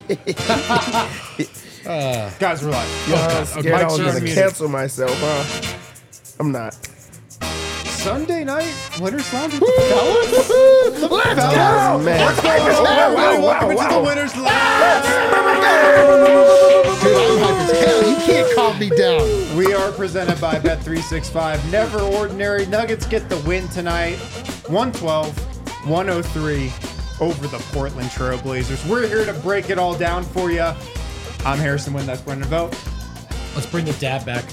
Guys, relax. I'm scared I was going to cancel myself, huh? I'm not. Sunday night Winners Lounge with the fellas? Let's Fellas? go! Man. Let's go! Welcome to the Winners Lounge! Dude, I'm hyped as hell. You can't calm me down. We are presented by Bet365. Never ordinary. Nuggets get the win tonight. 112-103 over the Portland Trail Blazers. We're here to break it all down for you. I'm Harrison Wind. That's Brendan Vogt. Let's bring the dab back.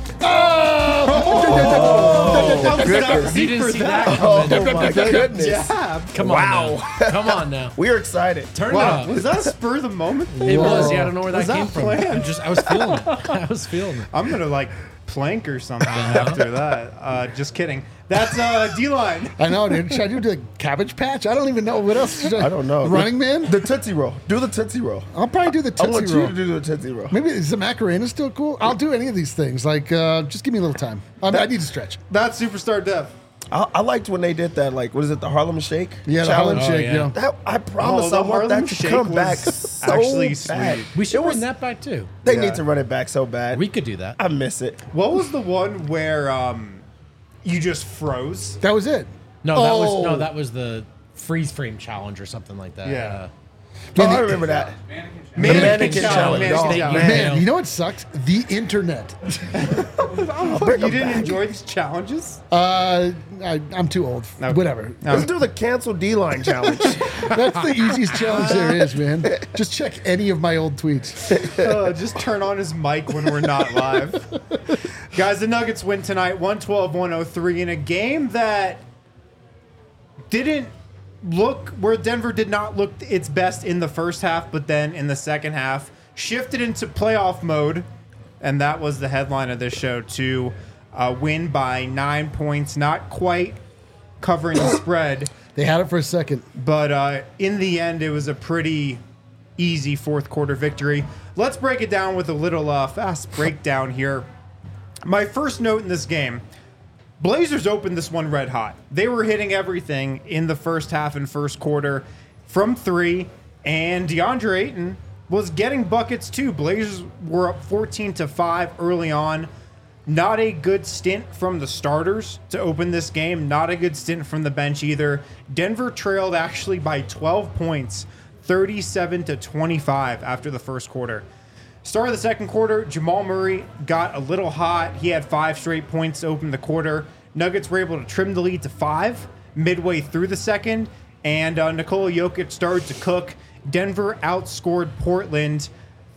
You didn't see that Oh, my goodness. Yeah. Come on now. Come on now. We are excited. Turn Wow. it up. Was that a spur of the moment? It was. Yeah, I don't know where Was that that came from. planned? I was feeling it. I was feeling it. I'm going to plank or something after that. Just kidding. That's D-line. I know, dude. Should I do the Cabbage Patch? I don't even know. What else should I don't know. Running Man? The Tootsie Roll. Do the Tootsie Roll. I'll probably do the I want Tootsie you Roll. to do the Tootsie Roll. Maybe is the Macarena still cool? I'll do any of these things. Just give me a little time. I need to stretch. That's Superstar Dev. I liked when they did that, what is it, the Harlem Shake? Yeah, the challenge? Harlem Shake, yeah. yeah. That, I promise the I want Harlem that to Shake come was back so actually bad. sweet. We should It was- bring that back too. They Yeah. need to run it back so bad. We could do that. I miss it. What was the one where you just froze? That was it. That was the freeze frame challenge or something like that. Yeah. I remember that. Mannequin challenge. Mannequin Oh, challenge. Man, you know what sucks? The internet. You didn't enjoy these challenges? I'm too old. No. Whatever. Let's do the cancel D-line challenge. That's the easiest challenge there is, man. Just check any of my old tweets. Just turn on his mic when we're not live. Guys, the Nuggets win tonight, 112-103, in a game that didn't look where Denver did not look its best in the first half, but then in the second half shifted into playoff mode, and that was the headline of this show, to win by 9 points, not quite covering the spread, They had it for a second. but in the end it was a pretty easy fourth quarter victory. Let's break it down with a little fast breakdown here. My first note in this game: Blazers opened this one red hot. They were hitting everything in the first half and first quarter from three, and DeAndre Ayton was getting buckets too. Blazers were up 14-5 early on. Not a good stint from the starters to open this game. Not a good stint from the bench either. Denver trailed actually by 12 points, 37-25 after the first quarter. Start of the second quarter, Jamal Murray got a little hot. He had 5 straight points to open the quarter. Nuggets were able to trim the lead to 5 midway through the second, and Nikola Jokic started to cook. Denver outscored Portland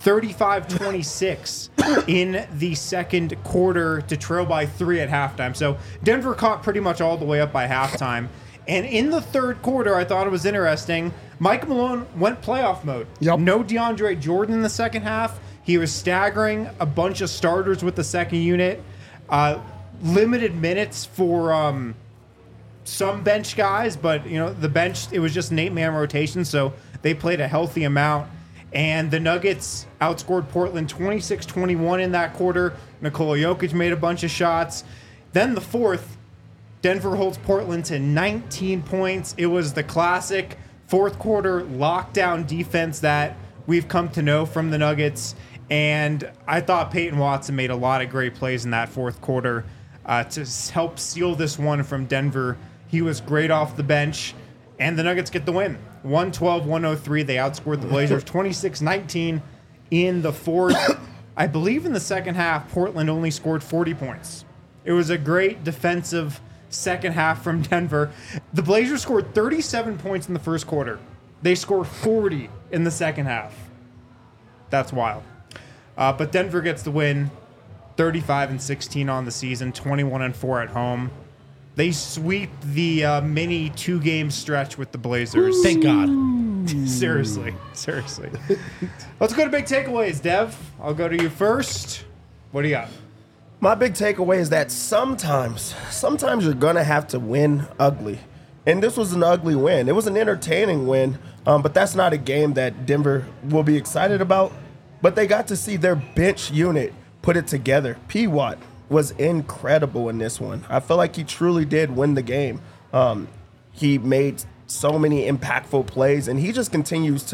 35-26 in the second quarter to trail by 3 at halftime. So Denver caught pretty much all the way up by halftime. And in the third quarter, I thought it was interesting. Mike Malone went playoff mode. Yep. No DeAndre Jordan in the second half. He was staggering a bunch of starters with the second unit. Limited minutes for some bench guys, but the bench, it was just an 8-man rotation, so they played a healthy amount. And the Nuggets outscored Portland 26-21 in that quarter. Nikola Jokic made a bunch of shots. Then the fourth, Denver holds Portland to 19 points. It was the classic fourth quarter lockdown defense that we've come to know from the Nuggets. And I thought Peyton Watson made a lot of great plays in that fourth quarter to help seal this one from Denver. He was great off the bench, and the Nuggets get the win. 112-103. They outscored the Blazers 26-19 in the fourth. I believe in the second half, Portland only scored 40 points. It was a great defensive second half from Denver. The Blazers scored 37 points in the first quarter. They scored 40 in the second half. That's wild. But Denver gets the win, 35-16 on the season, 21-4 at home. They sweep the mini 2-game stretch with the Blazers. Thank God. Seriously. Let's go to big takeaways, Dev. I'll go to you first. What do you got? My big takeaway is that sometimes you're going to have to win ugly. And this was an ugly win. It was an entertaining win, but that's not a game that Denver will be excited about. But they got to see their bench unit put it together. P. Watt was incredible in this one. I feel like he truly did win the game. He made so many impactful plays, and he just continues to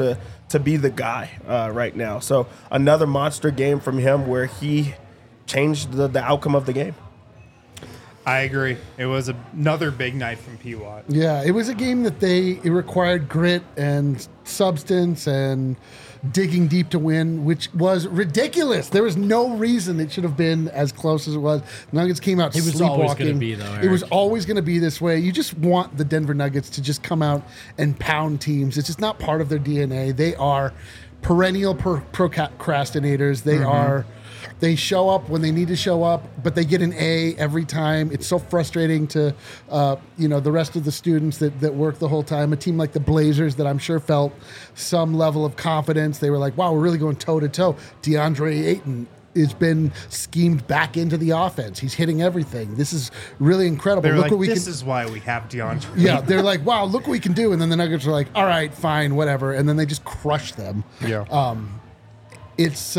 to be the guy right now. So another monster game from him where he changed the outcome of the game. I agree. It was another big night from P. Watt. Yeah, it was a game that it required grit and substance and digging deep to win, which was ridiculous. There was no reason it should have been as close as it was. Nuggets came out It was sleepwalking. always gonna be, though, It was Eric. always going to be this way. You just want the Denver Nuggets to just come out and pound teams. It's just not part of their DNA. They are perennial procrastinators. They show up when they need to show up, but they get an A every time. It's so frustrating to, the rest of the students that work the whole time. A team like the Blazers that I'm sure felt some level of confidence. They were like, wow, we're really going toe to toe. DeAndre Ayton has been schemed back into the offense. He's hitting everything. This is really incredible. They're Look like, what we this can. is why we have DeAndre. Yeah, they're like, wow, look what we can do. And then the Nuggets are like, all right, fine, whatever. And then they just crush them. Yeah. It's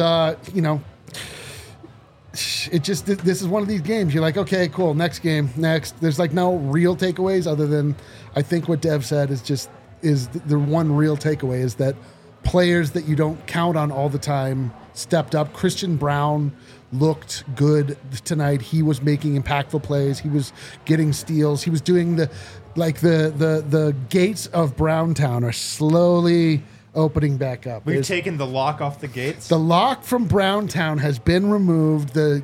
it just, this is one of these games. You're like, okay, cool, next game, next. There's like no real takeaways other than I think what Dev said is the one real takeaway is that players that you don't count on all the time stepped up. Christian Brown looked good tonight. He was making impactful plays. He was getting steals. He was doing the gates of Browntown are slowly opening back up. We've taken the lock off the gates. The lock from Browntown has been removed. The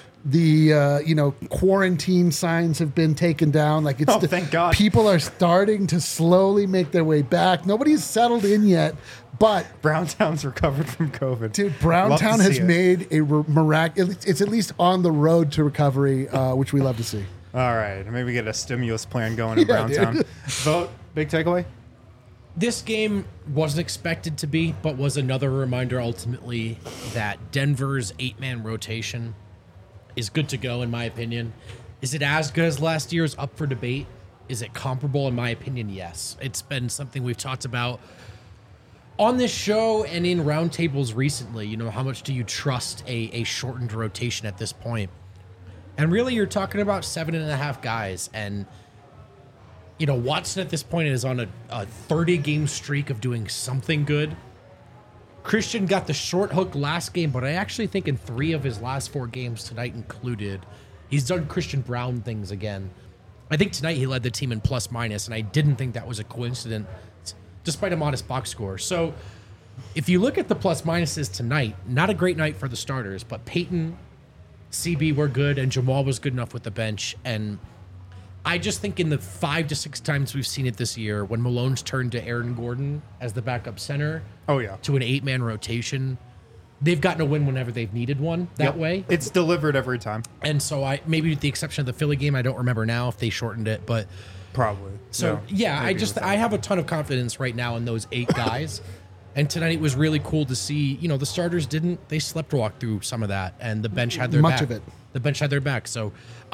quarantine signs have been taken down. Like it's thank God. People are starting to slowly make their way back. Nobody's settled in yet, but Browntown's recovered from COVID. dude, Love Browntown to has see it. made a miraculous. It's at least on the road to recovery, which we love to see. All right, maybe get a stimulus plan going in Yeah, Browntown. dude. Vote. Big takeaway. This game wasn't expected to be, but was another reminder ultimately that Denver's 8-man rotation is good to go, in my opinion. Is it as good as last year's? Up for debate. Is it comparable? In my opinion, yes. It's been something we've talked about on this show and in roundtables recently. You know, how much do you trust a shortened rotation at this point? And really, you're talking about 7.5 guys. And, you know, Watson at this point is on a 30-game streak of doing something good. Christian got the short hook last game, but I actually think in 3 of his last 4 games, tonight included, he's done Christian Brown things again. I think tonight he led the team in plus minus, and I didn't think that was a coincidence, despite a modest box score. So if you look at the plus minuses tonight, not a great night for the starters, but Peyton, CB were good, and Jamal was good enough with the bench. And I just think in the 5 to 6 times we've seen it this year, when Malone's turned to Aaron Gordon as the backup center, Oh yeah. to an 8-man rotation, they've gotten a win whenever they've needed one that Yep. way. It's delivered every time. And so I, maybe with the exception of the Philly game, I don't remember now if they shortened it, but Probably. so No, yeah, I agree with that. I have a ton of confidence right now in those 8 guys. And tonight it was really cool to see, you know, the starters they sleptwalk through some of that, and the bench had their Much back. of it. The bench had their back. So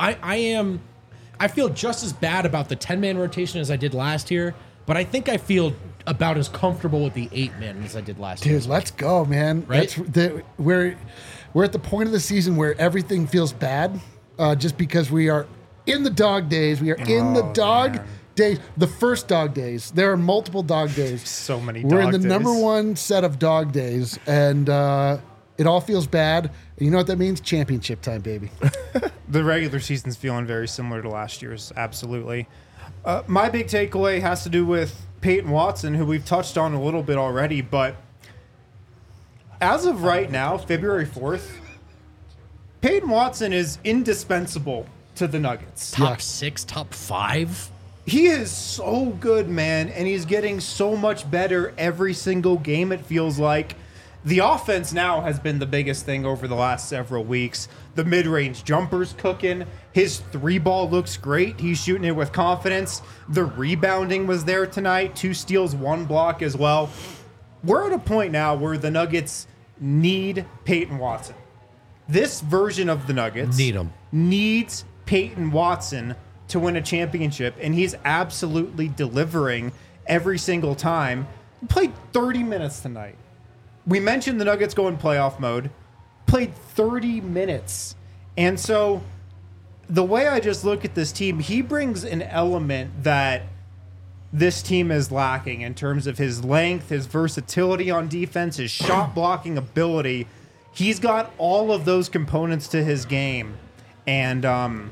I feel just as bad about the 10-man rotation as I did last year, but I think I feel about as comfortable with the 8-man as I did last year. Dude, let's go, man. Right? We're at the point of the season where everything feels bad, just because we are in the dog days. We are in the dog days. The first dog days. There are multiple dog days. So many We're dog in the days. number one set of dog days, and it all feels bad. And you know what that means? Championship time, baby. The regular season's feeling very similar to last year's, absolutely. My big takeaway has to do with Peyton Watson, who we've touched on a little bit already, but as of right now, February 4th, Peyton Watson is indispensable to the Nuggets. Top 6, top 5. He is so good, man, and he's getting so much better every single game, it feels like. The offense now has been the biggest thing over the last several weeks. The mid-range jumper's cooking. His 3-ball looks great. He's shooting it with confidence. The rebounding was there tonight. 2 steals, 1 block as well. We're at a point now where the Nuggets need Peyton Watson. This version of the Nuggets Need him. needs Peyton Watson to win a championship, and he's absolutely delivering every single time. He played 30 minutes tonight. We mentioned the Nuggets go in playoff mode. Played 30 minutes. And so the way I just look at this team, he brings an element that this team is lacking in terms of his length, his versatility on defense, his shot blocking ability. He's got all of those components to his game, and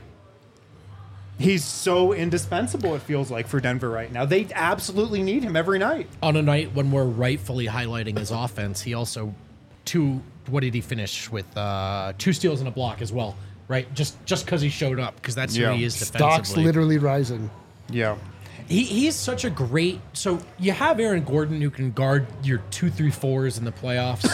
he's so indispensable, it feels like, for Denver right now. They absolutely need him every night. On a night when we're rightfully highlighting his offense, he also what did he finish with? 2 steals and a block as well, right? Just because he showed up, because that's who he is defensively. Stock's literally rising. Yeah. He's such a great. So you have Aaron Gordon, who can guard your 2-3-4s in the playoffs,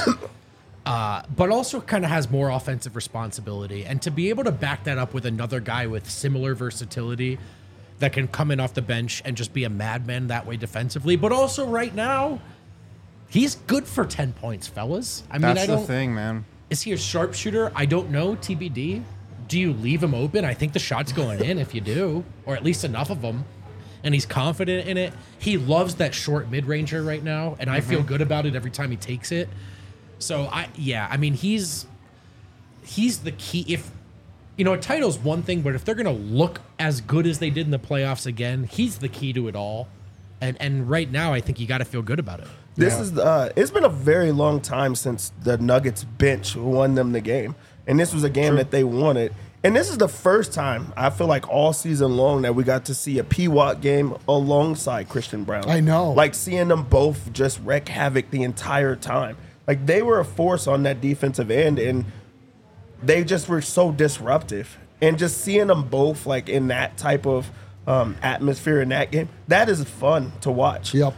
but also kind of has more offensive responsibility. And to be able to back that up with another guy with similar versatility that can come in off the bench and just be a madman that way defensively, but also right now, he's good for 10 points, fellas. I mean, That's the thing, man. Is he a sharpshooter? I don't know. TBD. Do you leave him open? I think the shot's going in if you do, or at least enough of them. And he's confident in it. He loves that short mid-ranger right now, and I feel good about it every time he takes it. So I mean, he's the key. If a title's one thing, but if they're gonna look as good as they did in the playoffs again, he's the key to it all. And right now, I think you got to feel good about it. It's been a very long time since the Nuggets bench won them the game, and this was a game that they wanted. And this is the first time, I feel like, all season long that we got to see a P-Watt game alongside Christian Brown. I know. Like, seeing them both just wreak havoc the entire time. Like, they were a force on that defensive end, and they just were so disruptive. And just seeing them both, like, in that type of atmosphere in that game, that is fun to watch. Yep.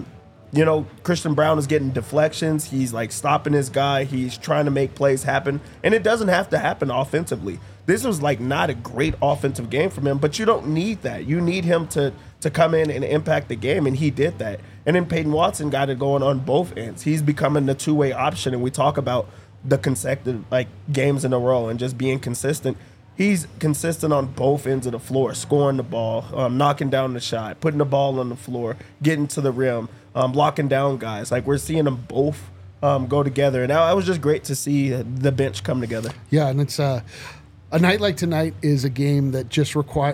Christian Brown is getting deflections. He's, like, stopping his guy. He's trying to make plays happen. And it doesn't have to happen offensively. This was, like, not a great offensive game from him, but you don't need that. You need him to come in and impact the game, and he did that. And then Peyton Watson got it going on both ends. He's becoming the two-way option, and we talk about the consecutive, like, games in a row and just being consistent. He's consistent on both ends of the floor, scoring the ball, knocking down the shot, putting the ball on the floor, getting to the rim, blocking down guys. Like, we're seeing them both go together. And it was just great to see the bench come together. Yeah, and it's a night like tonight is a game that just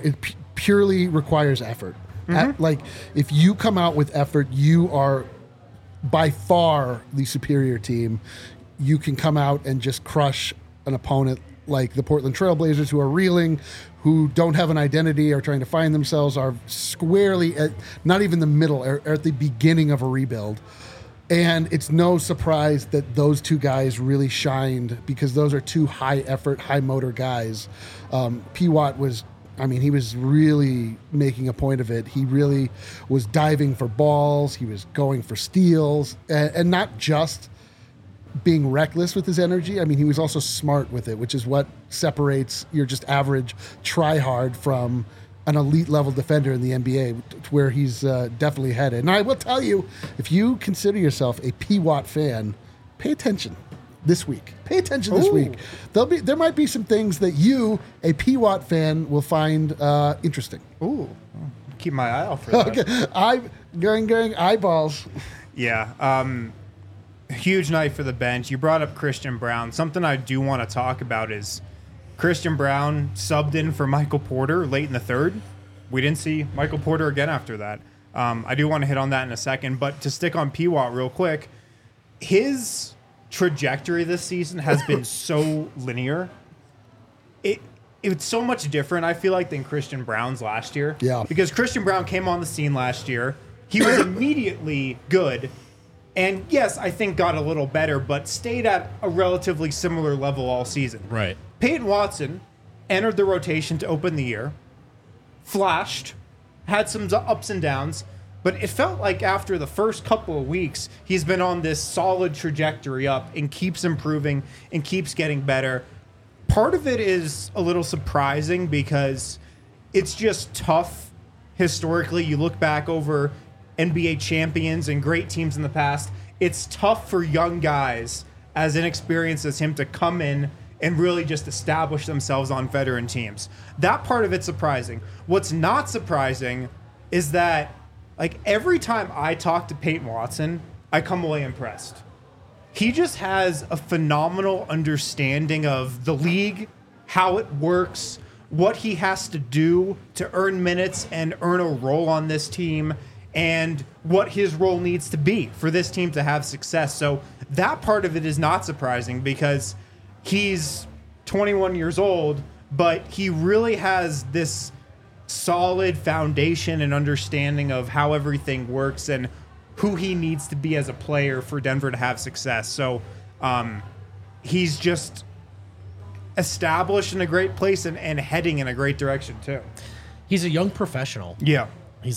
purely requires effort. Like, if you come out with effort, you are by far the superior team. You can come out and just crush an opponent like the Portland Trailblazers, who are reeling, who don't have an identity, are trying to find themselves, are squarely at not even the middle, are at the beginning of a rebuild. And it's no surprise that those two guys really shined, because those are two high-effort, high-motor guys. P-Watt he was really making a point of it. He really was diving for balls. He was going for steals, and not just being reckless with his energy. I mean, he was also smart with it, which is what separates your just average try-hard from an elite level defender in the NBA, where he's definitely headed. And I will tell you, if you consider yourself a P-Watt fan, pay attention this week. Pay attention this week. There might be some things that you, a P-Watt fan, will find interesting. Ooh, keep my eye out for that. Okay, I'm going eyeballs. Yeah. Huge night for the bench. You brought up Christian Brown. Something I do want to talk about is Christian Brown subbed in for Michael Porter late in the third. We didn't see Michael Porter again after that. I do want to hit on that in a second, but to stick on P-Watt real quick, his trajectory this season has been so linear. It's so much different, I feel like, than Christian Brown's last year. Yeah. Because Christian Brown came on the scene last year. He was immediately good. And yes, I think got a little better, but stayed at a relatively similar level all season. Right. Peyton Watson entered the rotation to open the year, flashed, had some ups and downs, but it felt like after the first couple of weeks, he's been on this solid trajectory up and keeps improving and keeps getting better. Part of it is a little surprising because it's just tough historically. You look back over NBA champions and great teams in the past, it's tough for young guys as inexperienced as him to come in and really just establish themselves on veteran teams. That part of it's surprising. What's not surprising is that, like, every time I talk to Peyton Watson, I come away impressed. He just has a phenomenal understanding of the league, how it works, what he has to do to earn minutes and earn a role on this team. and what his role needs to be for this team to have success. So that part of it is not surprising because he's 21 years old, but he really has this solid foundation and understanding of how everything works and who he needs to be as a player for Denver to have success. So he's just established in a great place and heading in a great direction too. He's a young professional. Yeah.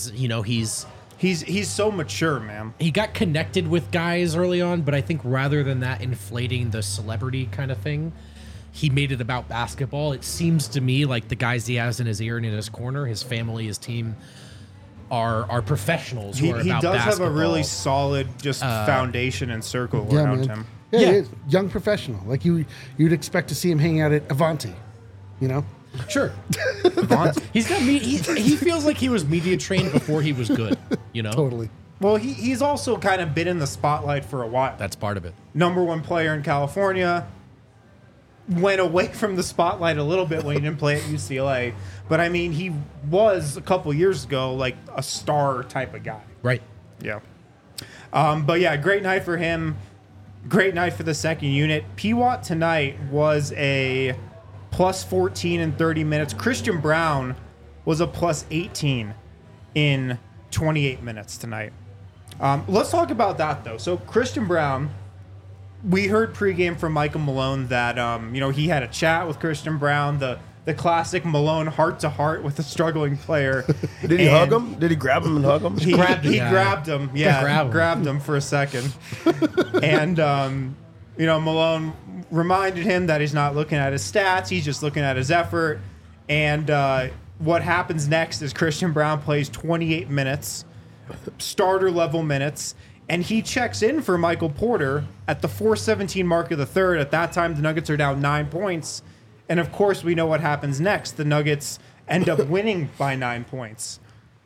He's so mature, man. he got connected with guys early on, but I think rather than that inflating the celebrity kind of thing, he made it about basketball. It seems to me like the guys he has in his ear and in his corner, his family, his team, are professionals who are He about does basketball. have a really solid just foundation and circle Yeah, around man. him. Yeah, Yeah. he is. Young professional. Like you'd expect to see him hanging out at Avanti, you know? Sure. He's got he feels like he was media trained before he was good, you know? Totally. Well, he's also kind of been in the spotlight for a while. That's part of it. Number one player in California. Went away from the spotlight a little bit when he didn't play at UCLA. But, I mean, he was, a couple years ago, like a star type of guy. Right. Yeah. But, yeah, great night for him. Great night for the second unit. Pewatt tonight was a plus 14 in 30 minutes. Christian Brown was a plus 18 in 28 minutes tonight. Let's talk about that, though. So, Christian Brown... We heard pregame from Michael Malone that he had a chat with Christian Brown, the classic Malone heart-to-heart with a struggling player. Did he hug him? Did he grab him and hug him? He grabbed him. Yeah, grabbed him for a second. And, Malone reminded him that he's not looking at his stats. He's just looking at his effort. And what happens next is Christian Brown plays 28 minutes, starter-level minutes, and he checks in for Michael Porter at the 4:17 mark of the third. At that time, the Nuggets are down 9 points. And, of course, we know what happens next. The Nuggets end up winning by 9 points.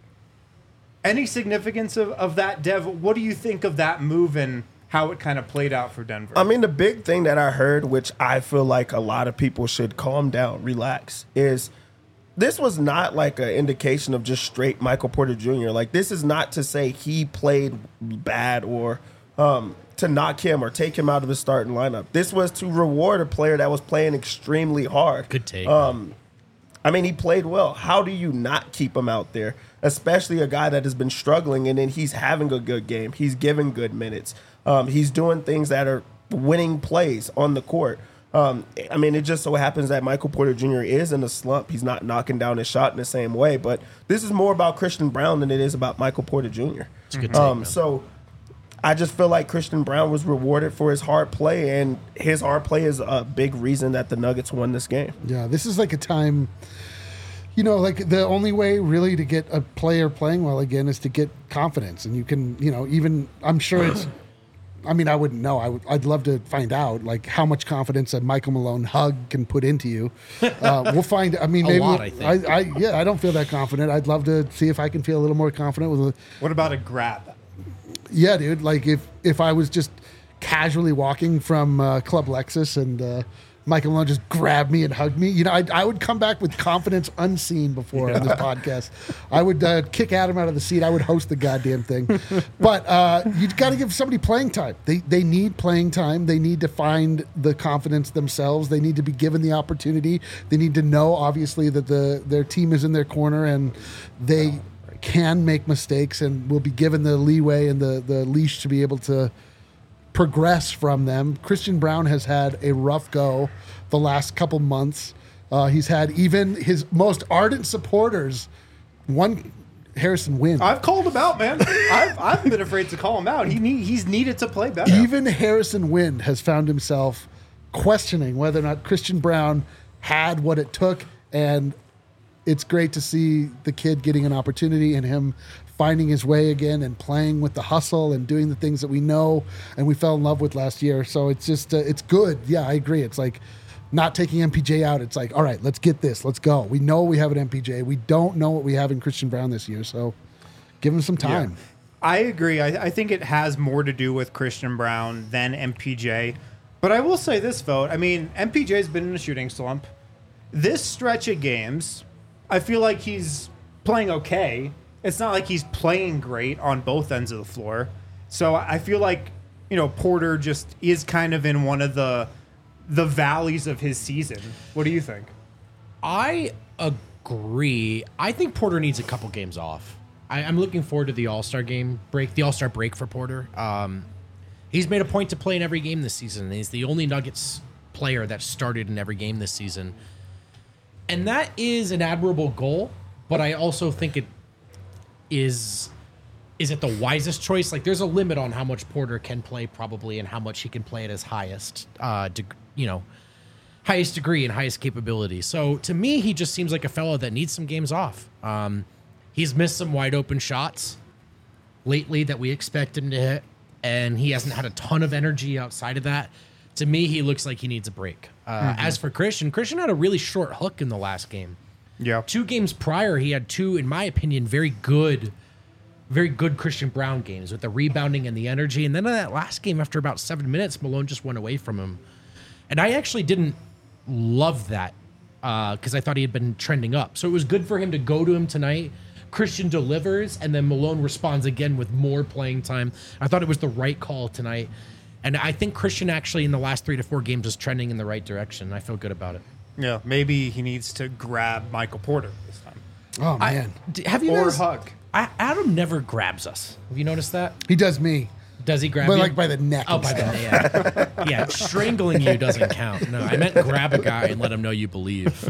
Any significance of that, Dev? What do you think of that move and how it kind of played out for Denver? I mean, the big thing that I heard, which I feel like a lot of people should calm down, relax, is this was not like an indication of just straight Michael Porter Jr. Like, this is not to say he played bad or to knock him or take him out of his starting lineup. This was to reward a player that was playing extremely hard. Good take. I mean, he played well. How do you not keep him out there, especially a guy that has been struggling and then he's having a good game. He's giving good minutes. He's doing things that are winning plays on the court. I mean, it just so happens that Michael Porter Jr. is in a slump. He's not knocking down his shot in the same way. But this is more about Christian Brown than it is about Michael Porter Jr. It's a good take, man. So I just feel like Christian Brown was rewarded for his hard play, and his hard play is a big reason that the Nuggets won this game. Yeah, this is like a time, like the only way really to get a player playing well again is to get confidence. And you can, even, I'm sure it's, I mean, I wouldn't know. I'd love to find out, like, how much confidence a Michael Malone hug can put into you. We'll find. I mean, A maybe lot, I think. I don't feel that confident. I'd love to see if I can feel a little more confident with. What about a grab? Yeah, dude. Like if I was just casually walking from Club Lexus and Michael Malone just grabbed me and hugged me, I would come back with confidence unseen before on this podcast. I would kick Adam out of the seat. I would host the goddamn thing. But you got to give somebody playing time. They need playing time. They need to find the confidence themselves. They need to be given the opportunity. They need to know, obviously, that their team is in their corner and they can make mistakes and will be given the leeway and the leash to be able to progress from them. Christian Brown has had a rough go the last couple months. He's had even his most ardent supporters, one Harrison Wind. I've called him out, man. I've been afraid to call him out. He's needed to play better. Even Harrison Wind has found himself questioning whether or not Christian Brown had what it took, and it's great to see the kid getting an opportunity and him finding his way again and playing with the hustle and doing the things that we know and we fell in love with last year. So it's just, it's good. Yeah, I agree. It's like not taking MPJ out. It's like, all right, let's get this. Let's go. We know we have an MPJ. We don't know what we have in Christian Brown this year. So give him some time. Yeah. I agree. I think it has more to do with Christian Brown than MPJ. But I will say this, Vogt. I mean, MPJ's been in a shooting slump. This stretch of games, I feel like he's playing okay. it's not like he's playing great on both ends of the floor. So I feel like, Porter just is kind of in one of the valleys of his season. What do you think? I agree. I think Porter needs a couple games off. I'm looking forward to the All-Star break for Porter. He's made a point to play in every game this season. He's the only Nuggets player that started in every game this season. And that is an admirable goal, but I also think it is it the wisest choice? Like, there's a limit on how much Porter can play probably and how much he can play at his highest highest degree and highest capability. So to me, he just seems like a fellow that needs some games off. He's missed some wide open shots lately that we expect him to hit, and he hasn't had a ton of energy outside of that. To me, he looks like he needs a break. As for Christian had a really short hook in the last game. Yeah. 2 games prior, he had 2, in my opinion, very good Christian Brown games with the rebounding and the energy. And then in that last game, after about 7 minutes, Malone just went away from him. And I actually didn't love that because I thought he had been trending up. So it was good for him to go to him tonight. Christian delivers, and then Malone responds again with more playing time. I thought it was the right call tonight. And I think Christian actually in the last 3 to 4 games is trending in the right direction. I feel good about it. Yeah, maybe he needs to grab Michael Porter this time. Oh, man. Have you Or noticed? hug. Adam never grabs us. Have you noticed that? He does me. Does he grab But you? like by the neck. Oh, and by stuff. the yeah. Yeah, strangling you doesn't count. No, I meant grab a guy and let him know you believe.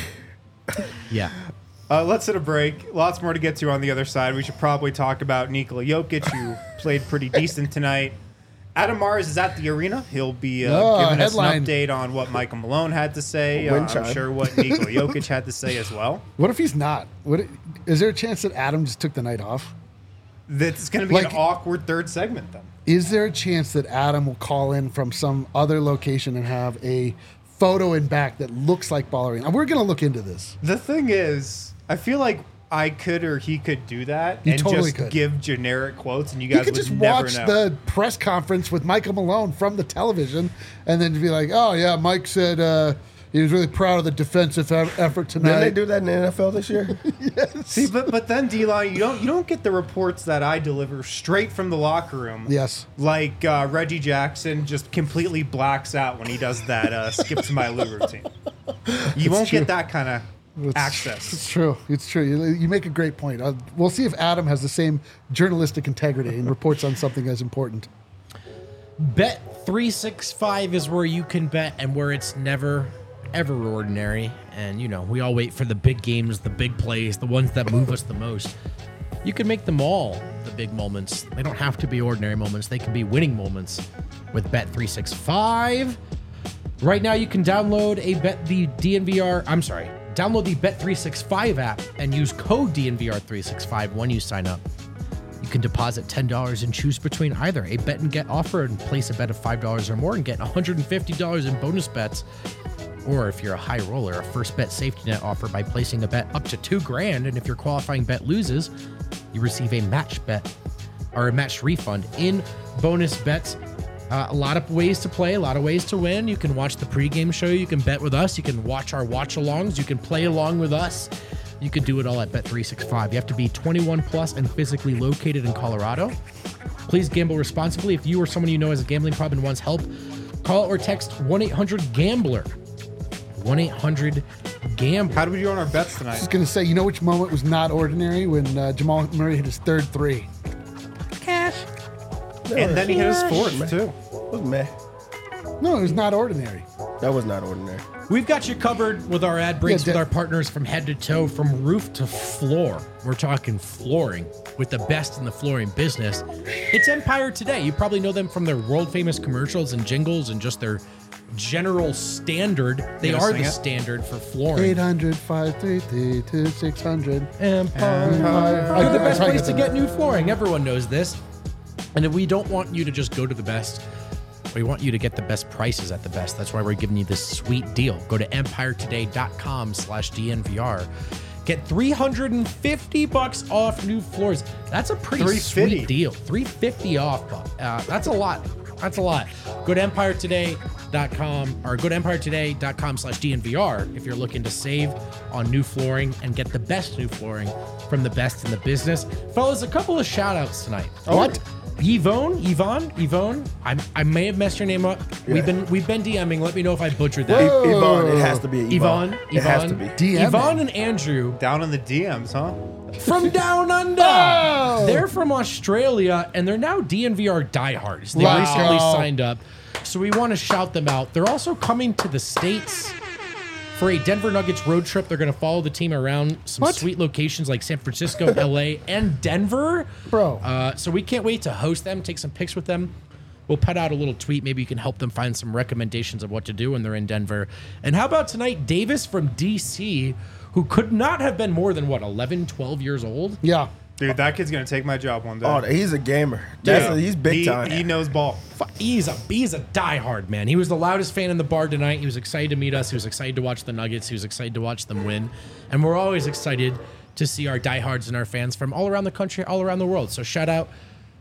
Yeah. Let's hit a break. Lots more to get to on the other side. We should probably talk about Nikola Jokic, who played pretty decent tonight. Adam Mars is at the arena. He'll be giving us an headline. update on what Michael Malone had to say. Wind I'm chime. sure what Nikola Jokic had to say as well. What if he's not? Is there a chance that Adam just took the night off? That's going to be Like- an awkward third segment then. Is there a chance that Adam will call in from some other location and have a photo in back that looks like Ball Arena? We're going to look into this. The thing is, I feel like I could or he could do that You and totally just could. give generic quotes, and you You guys could would just never watch know. the press conference with Michael Malone from the television and then be like, oh, yeah, Mike said he was really proud of the defensive effort tonight. Didn't they do that in the NFL this year? See, but then D-line, you don't get the reports that I deliver straight from the locker room. Yes. Like Reggie Jackson just completely blacks out when he does that skip to my Lou routine. You won't true. get that kind of access. It's true. It's true. You make a great point. We'll see if Adam has the same journalistic integrity and reports on something as important. Bet365 is where you can bet and where it's never, ever ordinary. And, we all wait for the big games, the big plays, the ones that move us the most. You can make them all the big moments. They don't have to be ordinary moments. They can be winning moments with Bet365. Right now, you can download download the Bet365 app and use code DNVR365 when you sign up. You can deposit $10 and choose between either a bet and get offer and place a bet of $5 or more and get $150 in bonus bets. Or if you're a high roller, a first bet safety net offer by placing a bet up to $2,000. And if your qualifying bet loses, you receive a match bet or a match refund in bonus bets. A lot of ways to play, a lot of ways to win. You can watch the pregame show. You can bet with us. You can watch our watch-alongs. You can play along with us. You can do it all at Bet365. You have to be 21 plus and physically located in Colorado. Please gamble responsibly. If you or someone you know has a gambling problem and wants help, call or text 1-800-GAMBLER. 1-800-GAMBLER. How do we do on our bets I tonight? was going to say, which moment was not ordinary when Jamal Murray hit his third three? And then he hit his fourth, too. It was meh. No, it was not ordinary. That was not ordinary. We've got you covered with our ad breaks Yeah, with our partners from head to toe, from roof to floor. We're talking flooring with the best in the flooring business. It's Empire Today. You probably know them from their world famous commercials and jingles and just their general standard. They gonna are sing the it? standard for flooring. 800-533-2600. Empire. I- They're the I best probably place got to that. get new flooring. Everyone knows this. And we don't want you to just go to the best. We want you to get the best prices at the best. That's why we're giving you this sweet deal. Go to empiretoday.com/DNVR. Get $350 off new floors. That's a pretty $350. sweet deal. $350 off. That's a lot. That's a lot. Go to EmpireToday.com or go to EmpireToday.com/DNVR if you're looking to save on new flooring and get the best new flooring from the best in the business. Fellas, a couple of shout outs tonight. What? Yvonne, I may have messed your name up. We've been DMing. Let me know if I butchered that. Yvonne, it has to be Yvonne, It has to be. DMing. Yvonne and Andrew Down in the DMs, huh? from down under. Oh! They're from Australia and they're now DNVR diehards. They Wow. recently signed up, so we want to shout them out. They're also coming to the States for a Denver Nuggets road trip. They're going to follow the team around some What? sweet locations like San Francisco, LA, and Denver. Bro. So we can't wait to host them, take some pics with them. We'll put out a little tweet. Maybe you can help them find some recommendations of what to do when they're in Denver. And how about tonight, Davis from DC, who could not have been more than, 11, 12 years old? Yeah. Dude, that kid's gonna take my job one day. Oh, he's a gamer. He's big time. He knows ball. He's a diehard, man. He was the loudest fan in the bar tonight. He was excited to meet us. He was excited to watch the Nuggets. He was excited to watch them win. And we're always excited to see our diehards and our fans from all around the country, all around the world. So shout out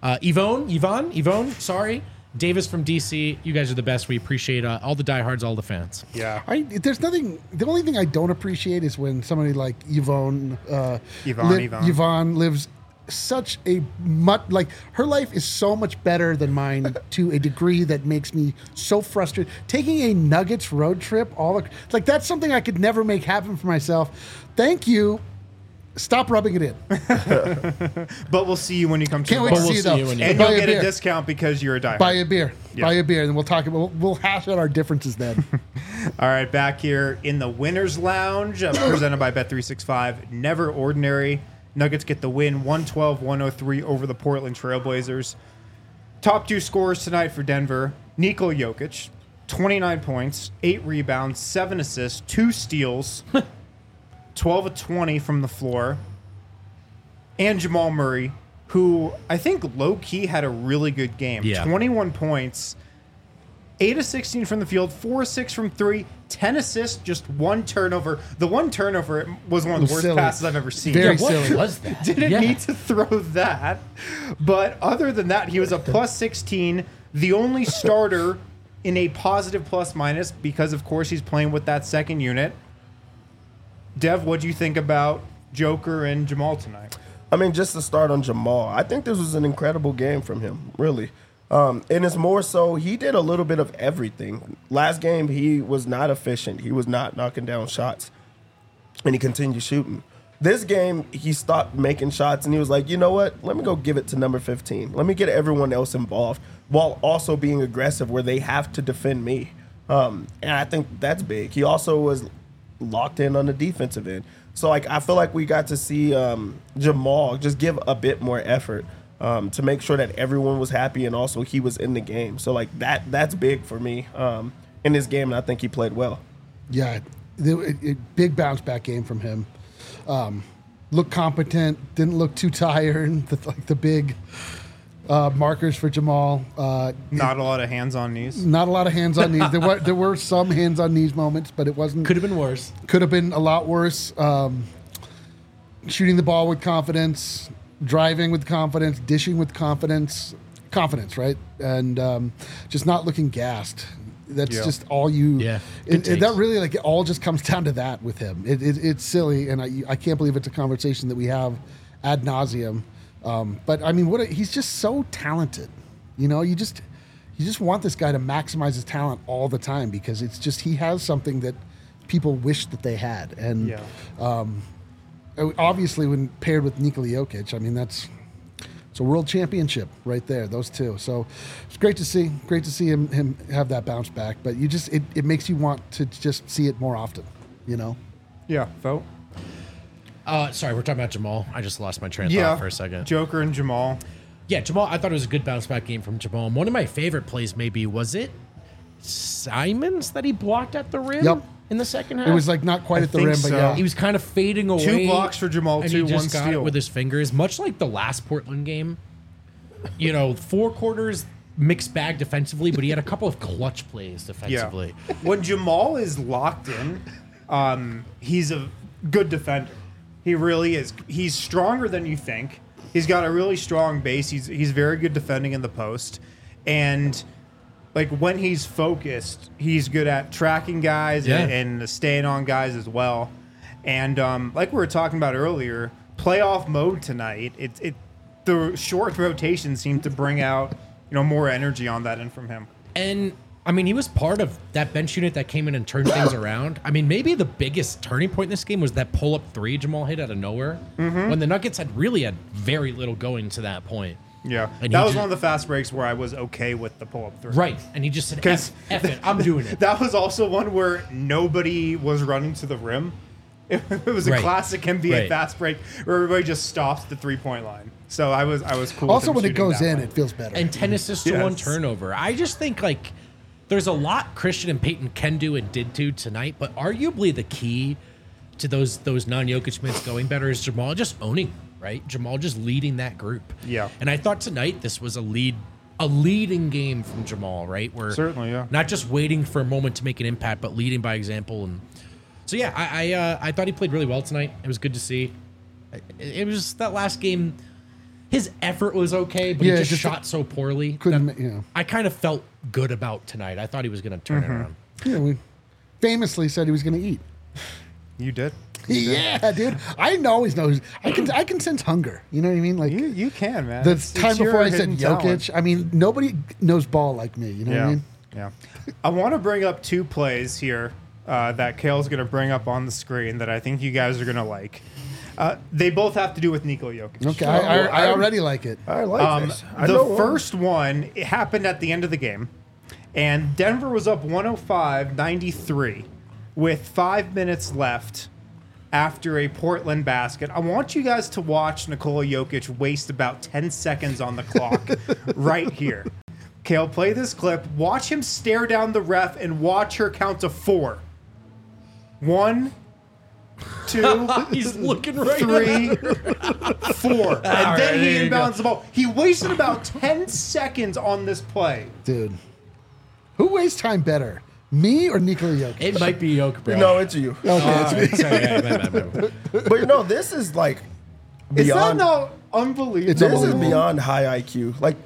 Yvonne, sorry. Davis from DC. You guys are the best. We appreciate all the diehards, all the fans. Yeah. There's nothing. The only thing I don't appreciate is when somebody like Yvonne, Yvonne. Yvonne lives such a like her life is so much better than mine to a degree that makes me so frustrated. Taking a Nuggets road trip, like that's something I could never make happen for myself. Thank you. Stop rubbing it in. But we'll see you when you come to Can't the wait bar. to see you though. when you- And Buy you'll a get a beer. discount because you're a diehard. Buy a beer. Yeah. Buy a beer, and then we'll talk about. We'll hash out our differences then. All right, back here in the Winners Lounge, presented by Bet365. Never ordinary. Nuggets get the win, 112-103 over the Portland Trailblazers. Top two scorers tonight for Denver. Nikola Jokic, 29 points, 8 rebounds, 7 assists, 2 steals, 12 of 20 from the floor. And Jamal Murray, who I think low-key had a really good game. Yeah. 21 points, 8 of 16 from the field, 4 of 6 from 3, 10 assists, just 1 turnover. The 1 turnover was one of the worst Silly. passes I've ever seen. Very What silly. was that? Didn't Yeah. need to throw that. But other than that, he was a plus 16, the only starter in a positive plus minus because, of course, he's playing with that second unit. Dev, what do you think about Joker and Jamal tonight? I mean, just to start on Jamal, I think this was an incredible game from him, really. And it's more so he did a little bit of everything. Last game, he was not efficient. He was not knocking down shots, and he continued shooting. This game, he stopped making shots, and he was like, you know what? Let me go give it to number 15. Let me get everyone else involved while also being aggressive where they have to defend me. And I think that's big. He also was locked in on the defensive end. So, like, I feel like we got to see Jamal just give a bit more effort to make sure that everyone was happy and also he was in the game. So, like, that's big for me in this game, and I think he played well. Yeah, big bounce back game from him. Looked competent, didn't look too tired. The big markers for Jamal. Not a lot of hands on knees. Not a lot of hands on knees. There were some hands on knees moments, but it wasn't. Could have been worse. Could have been a lot worse. Shooting the ball with confidence, driving with confidence, dishing with confidence, right? And just not looking gassed. That's Yeah. just all you. Yeah, good That takes. really it all just comes down to that with him. It's silly, and I can't believe it's a conversation that we have ad nauseum. But I mean, he's just so talented. You know, you just want this guy to maximize his talent all the time because it's just he has something that people wish that they had. And Yeah. obviously, when paired with Nikola Jokic, I mean it's a world championship right there. Those two. So it's great to see. Great to see him have that bounce back. But it makes you want to just see it more often. You know. Yeah, vote. Sorry, we're talking about Jamal. I just lost my train of Yeah, thought for a second. Joker and Jamal. Yeah, Jamal, I thought it was a good bounce back game from Jamal. One of my favorite plays maybe, was it Simons that he blocked at the rim Yep. in the second half? It was like not quite I at the think rim, but so. yeah. He was kind of fading away. 2 blocks for Jamal, and 2, he 1 just got steal. it with his fingers, much like the last Portland game. You know, 4 quarters, mixed bag defensively, but he had a couple of clutch plays defensively. When Jamal is locked in, he's a good defender. He really is. He's stronger than you think. He's got a really strong base. He's very good defending in the post. And like when he's focused, he's good at tracking guys and staying on guys as well. And like we were talking about earlier, playoff mode tonight, the short rotation seemed to bring out more energy on that end from him. And I mean, he was part of that bench unit that came in and turned things around. I mean, maybe the biggest turning point in this game was that pull-up three Jamal hit out of nowhere when the Nuggets had very little going to that point. Yeah, And that he was just- one of the fast breaks where I was okay with the pull-up three. Right. And he just said, Because F it, I'm doing it. That was also one where nobody was running to the rim. It was a Right. classic NBA Right. fast break where everybody just stops at the 3-point line. So I was cool. Also, with him when it shooting goes that in, way. it feels better. And 10 assists to 1 Yes. turnover. I just think, like, there's a lot Christian and Peyton can do and did do tonight, but arguably the key to those non-Jokic minutes going better is Jamal just owning, right? Jamal just leading that group. Yeah. And I thought tonight this was a leading game from Jamal, right? Where Certainly, yeah. not just waiting for a moment to make an impact, but leading by example. And so, yeah, I thought he played really well tonight. It was good to see. It was just that last game. His effort was okay, but Yeah, he just just shot so poorly. couldn't, I kind of felt good about tonight. I thought he was going to turn it around. we famously said he was going to eat. You did. Yeah, dude. I always know. I can sense hunger. You know what I mean? Like You can, man. the It's time your before I said hidden Jokic. talent. I mean, nobody knows ball like me. You know what I mean? Yeah. I want to bring up 2 plays here that Kale's going to bring up on the screen that I think you guys are going to like. They both have to do with Nikola Jokic. Okay, I already like it. I like this. I The know one. first one, it happened at the end of the game, and Denver was up 105-93 with 5 minutes left after a Portland basket. I want you guys to watch Nikola Jokic waste about 10 seconds on the clock right here. Kale, play this clip. Watch him stare down the ref and watch her count to 4. 1, 2, He's looking right 3, 4. And right, then he there you go. inbounds the ball. He wasted about 10 seconds on this play. Dude. Who wastes time better? Me or Nikola Jokic? It might be Jokic, bro. No, it's you. Okay, it's me. Sorry, yeah, But this is like Is that beyond. not unbelievable? It's This is unbelievable. beyond high IQ. Like,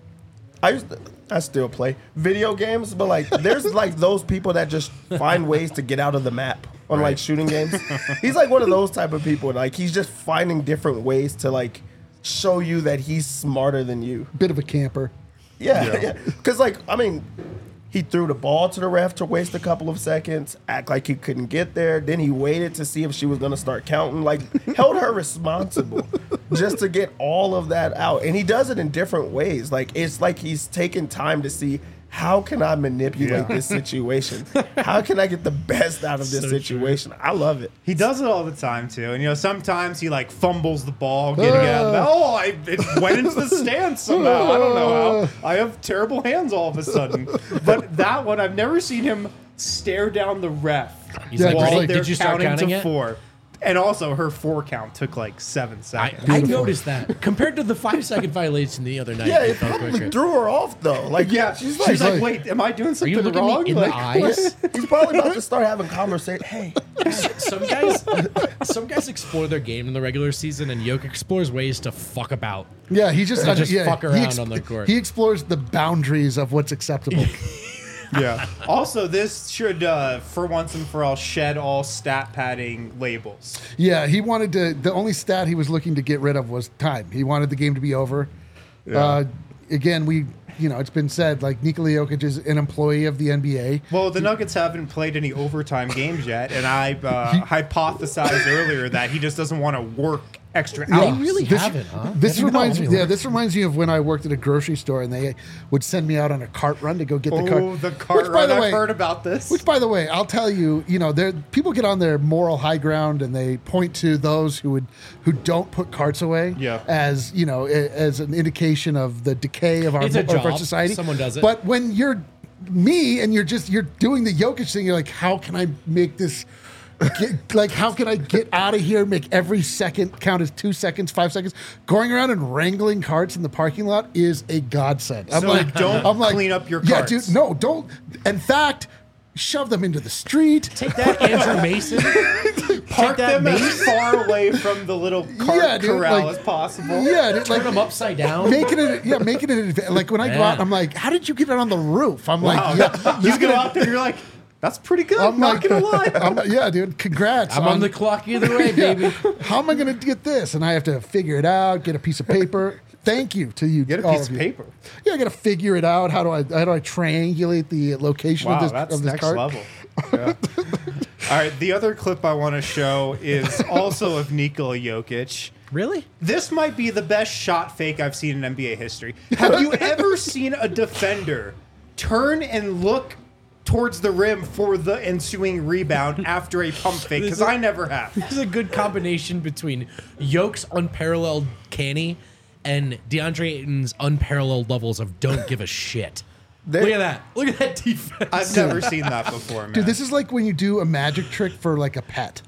I still play video games, but like, there's like those people that just find ways to get out of the map on like shooting games. He's like one of those type of people. Like, he's just finding different ways to like show you that he's smarter than you. Bit of a camper. Yeah. Because like, I mean, he threw the ball to the ref to waste a couple of seconds, act like he couldn't get there. Then he waited to see if she was going to start counting, like held her responsible just to get all of that out. And he does it in different ways. Like, it's like he's taking time to see, how can I manipulate this situation? How can I get the best out of this So situation? I love it. He does it all the time too, and sometimes he like fumbles the ball getting it out of the it went into the stands somehow. I don't know how. I have terrible hands all of a sudden. But that one, I've never seen him stare down the ref He's like, while ready? they're Did you start counting to it? 4. And also, her 4 count took like 7 seconds. I noticed that compared to the 5-second violation the other night. Yeah, it it felt probably quicker. threw her off though. Like, Yeah, she's she's like, like, wait, am I doing Are something you looking wrong? me in the eyes? he's probably about to start having conversation. Hey, Some guys explore their game in the regular season, and Jokic explores ways to fuck about. Yeah, he just, fuck around on the court. He explores the boundaries of what's acceptable. Yeah. Also, this should, for once and for all, shed all stat padding labels. Yeah, he wanted to. The only stat he was looking to get rid of was time. He wanted the game to be over. Again, it's been said, like, Nikola Jokic is an employee of the NBA. Well, the Nuggets haven't played any overtime games yet, and I hypothesized earlier that he just doesn't want to work extra Yeah. hours. They really This- haven't, huh? This I didn't know reminds me. anyway. Yeah, this reminds me of when I worked at a grocery store and they would send me out on a cart run to go get the Oh, cart. the cart Which, by run! the I've way, heard about this. Which, by the way, I'll tell you, people get on their moral high ground and they point to those who don't put carts away Yeah. as as an indication of the decay of our, It's a of our job. society. Someone does it. But when you're me and you're doing the Jokic thing, you're like, how can I make this? How can I get out of here? Make every second count as 2 seconds, 5 seconds. Going around and wrangling carts in the parking lot is a godsend. I'm So like, don't clean up your Yeah, carts. dude. No, don't. In fact, shove them into the street. Take that, Andrew Mason. park take that them as mace, far away from the little cart dude, corral like- as possible. Yeah, dude, turn like them upside down. making it like when I go Yeah. out, I'm like, how did you get it on the roof? I'm Wow. like, yeah, You go out there, you're like, that's pretty good. I'm not gonna lie. yeah, dude, congrats. I'm on the clock either way, baby. How am I going to get this? And I have to figure it out, get a piece of paper. Thank you to you. Get a all piece of you. paper. Yeah, I got to figure it out. How do I triangulate the location Wow, of this that's of this next card? level. Yeah. All right, the other clip I want to show is also of Nikola Jokic. Really? This might be the best shot fake I've seen in NBA history. Have you ever seen a defender turn and look towards the rim for the ensuing rebound after a pump fake? Because I never have. This is a good combination between Yoke's unparalleled canny and DeAndre Ayton's unparalleled levels of don't give a shit. Look at that. Look at that defense. I've never seen that before, man. Dude, this is like when you do a magic trick for like a pet.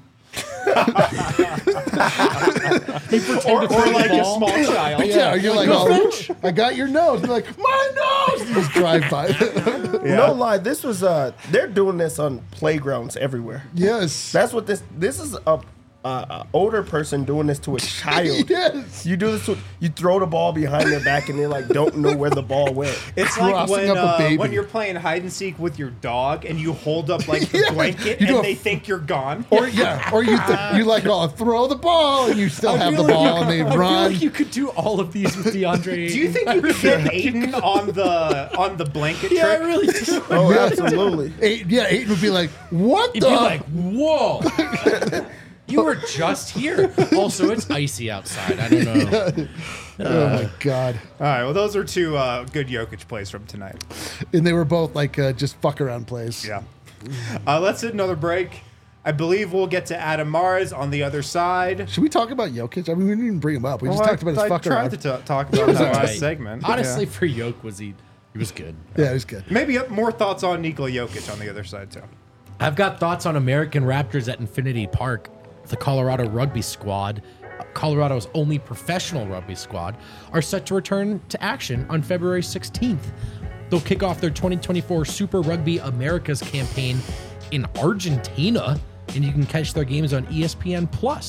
or like a small child. Yeah, you're like, Go oh, fetch. I got your nose. You're like, my nose. You just drive by. No lie, this was they're doing this on playgrounds everywhere. Yes. That's what this is a older person doing this to a child. Yes. You do this to you throw the ball behind their back and they like don't know where the ball went. It's like Crossing up a baby. when you're playing hide and seek with your dog and you hold up like the Yeah. blanket You do and a- they think you're gone. Or you like, oh, throw the ball, and you still have the ball, and they I feel run. like you could do all of these with DeAndre. Do you think you could get Aiden on the blanket Yeah, I trick? really do. Oh, absolutely. Aiden would be like, what You'd the? be like, whoa. You were just here. Also, it's icy outside. I don't know. Oh my god! All right, well, those are two good Jokic plays from tonight. And they were both like just fuck around plays. Yeah. Let's hit another break. I believe we'll get to Adam Mars on the other side. Should we talk about Jokic? I mean, we didn't even bring him up. We just Well, talked about his I fuck tried around. to talk about that last Right. segment. Honestly, Yeah. for Yoke, he was good. Yeah, it was good. Maybe more thoughts on Nikola Jokic on the other side, too. I've got thoughts on American Raptors at Infinity Park. The Colorado rugby squad, Colorado's only professional rugby squad, are set to return to action on February 16th. They'll kick off their 2024 Super Rugby Americas campaign in Argentina, and you can catch their games on ESPN+.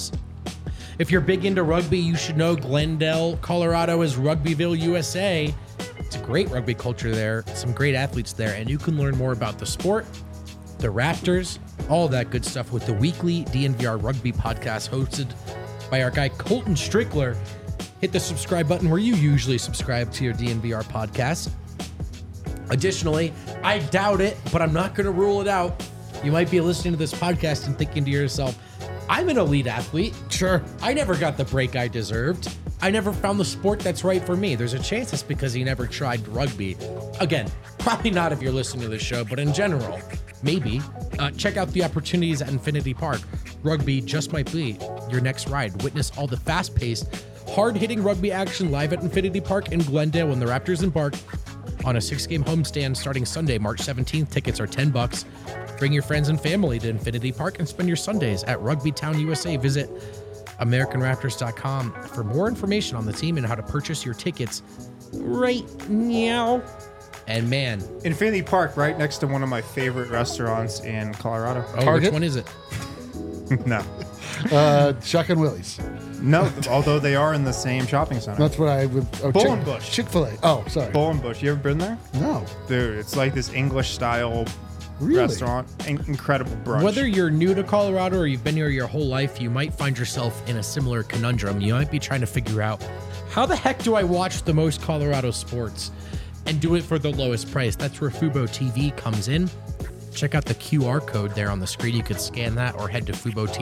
If you're big into rugby, you should know Glendale, Colorado is Rugbyville, USA. It's a great rugby culture there, some great athletes there, and you can learn more about the sport, the Raptors, all that good stuff with the weekly DNVR Rugby podcast hosted by our guy Colton Strickler. Hit the subscribe button where you usually subscribe to your DNVR podcast. Additionally, I doubt it, but I'm not going to rule it out. You might be listening to this podcast and thinking to yourself, I'm an elite athlete. Sure. I never got the break I deserved. I never found the sport that's right for me. There's a chance it's because you never tried rugby. Again, probably not if you're listening to this show, but in general, maybe. Check out the opportunities at Infinity Park. Rugby just might be your next ride. Witness all the fast-paced, hard-hitting rugby action live at Infinity Park in Glendale when the Raptors embark on a 6-game homestand starting Sunday, March 17th. Tickets are $10. Bring your friends and family to Infinity Park and spend your Sundays at Rugby Town, USA. Visit AmericanRaptors.com for more information on the team and how to purchase your tickets right now. And man, Infinity Park, right next to one of my favorite restaurants in Colorado. Target? which one is it? No. Shotgun Willie's. No, although they are in the same shopping center. That's what I would. Oh, Bull and Bush. Chick-fil-A. Oh, sorry. Bull and Bush. You ever been there? No. Dude, it's like this English style Really? restaurant. Incredible brunch. Whether you're new to Colorado or you've been here your whole life, you might find yourself in a similar conundrum. You might be trying to figure out, how the heck do I watch the most Colorado sports and do it for the lowest price? That's where Fubo TV comes in. Check out the QR code there on the screen. You could scan that or head to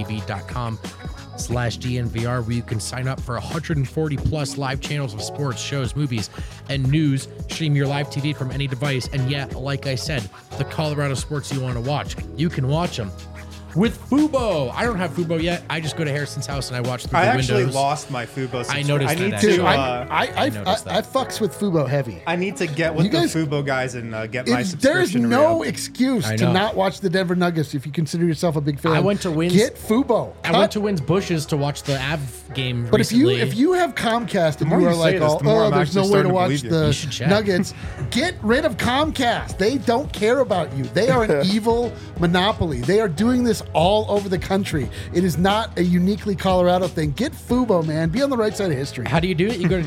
FuboTV.com/DNVR where you can sign up for 140 plus live channels of sports, shows, movies, and news. Stream your live TV from any device. And yeah, like I said, the Colorado sports you want to watch, you can watch them with Fubo. I don't have Fubo yet. I just go to Harrison's house and I watch through I the actually windows. lost my Fubo subscription. I noticed I need that, to. Dude, actually. I noticed that. I fucks with Fubo heavy. I need to get with You guys- the Fubo guys and get my There's subscription. no real. excuse I to know. not watch the Denver Nuggets if you consider yourself a big fan. I went to Wynn's- Get Fubo. I went to Wynn's Bushes to watch the Av game But recently. if you have Comcast and more you you are say like, this, the more I'm there's no actually way to starting to watch believe you. the You should check. Nuggets, get rid of Comcast. They don't care about you. They are an evil monopoly. They are doing this us all over the country. It is not a uniquely Colorado thing. Get Fubo, man. Be on the right side of history. How do you do it? You go to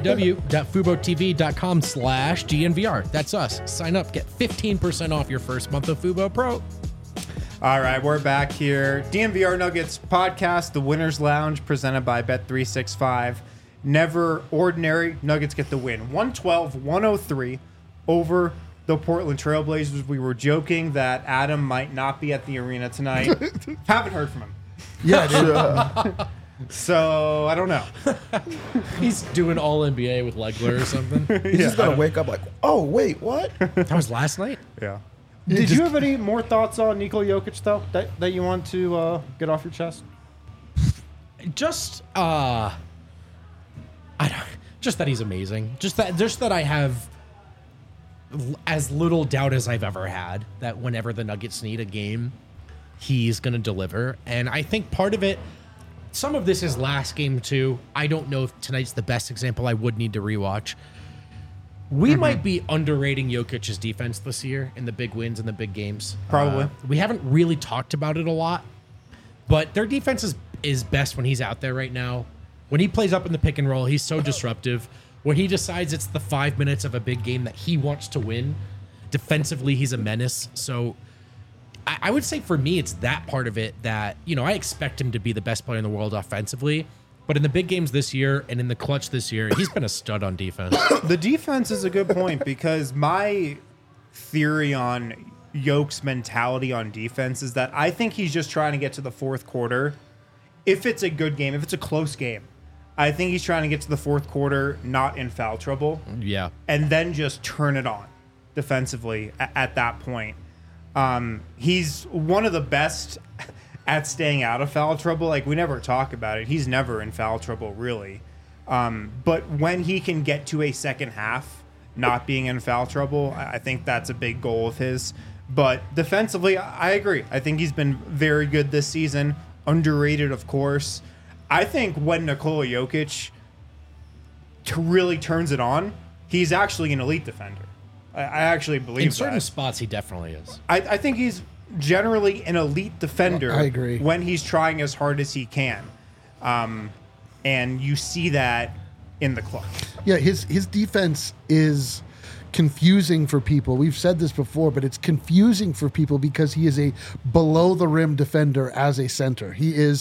www.fubotv.com/DNVR. That's us. Sign up. Get 15% off your first month of Fubo Pro. All right, we're back here. DNVR Nuggets podcast, the Winners Lounge, presented by Bet365. Never ordinary. Nuggets get the win. 112-103 over the Portland Trailblazers. We were joking that Adam might not be at the arena tonight. Haven't heard from him. Yeah, dude. So, I don't know. He's doing all NBA with Legler or something. He's just gonna wake up like, oh wait, what? That was last night. Yeah. Did you have any more thoughts on Nikola Jokic, though, that you want to get off your chest? Just just that he's amazing. Just that I have as little doubt as I've ever had that whenever the Nuggets need a game, he's going to deliver. And I think part of it, some of this is last game too. I don't know if tonight's the best example. I would need to rewatch. We might be underrating Jokic's defense this year in the big wins and the big games. Probably. We haven't really talked about it a lot, but their defense is best when he's out there right now. When he plays up in the pick and roll, he's so disruptive. When he decides it's the 5 minutes of a big game that he wants to win, defensively, he's a menace. So I would say for me, it's that part of it that, I expect him to be the best player in the world offensively. But in the big games this year and in the clutch this year, he's been a stud on defense. The defense is a good point because my theory on Yoke's mentality on defense is that I think he's just trying to get to the fourth quarter. If it's a good game, if it's a close game, I think he's trying to get to the fourth quarter, not in foul trouble. Yeah. And then just turn it on defensively at that point. He's one of the best at staying out of foul trouble. Like, we never talk about it. He's never in foul trouble, really. But when he can get to a second half not being in foul trouble, I think that's a big goal of his. But defensively, I agree. I think he's been very good this season. Underrated, of course. I think when Nikola Jokic really turns it on, he's actually an elite defender. I actually believe In certain that. spots, he definitely is. I think he's generally an elite defender. I agree. When he's trying as hard as he can. And you see that in the clutch. Yeah, his defense is confusing for people. We've said this before, but it's confusing for people because he is a below the rim defender as a center. His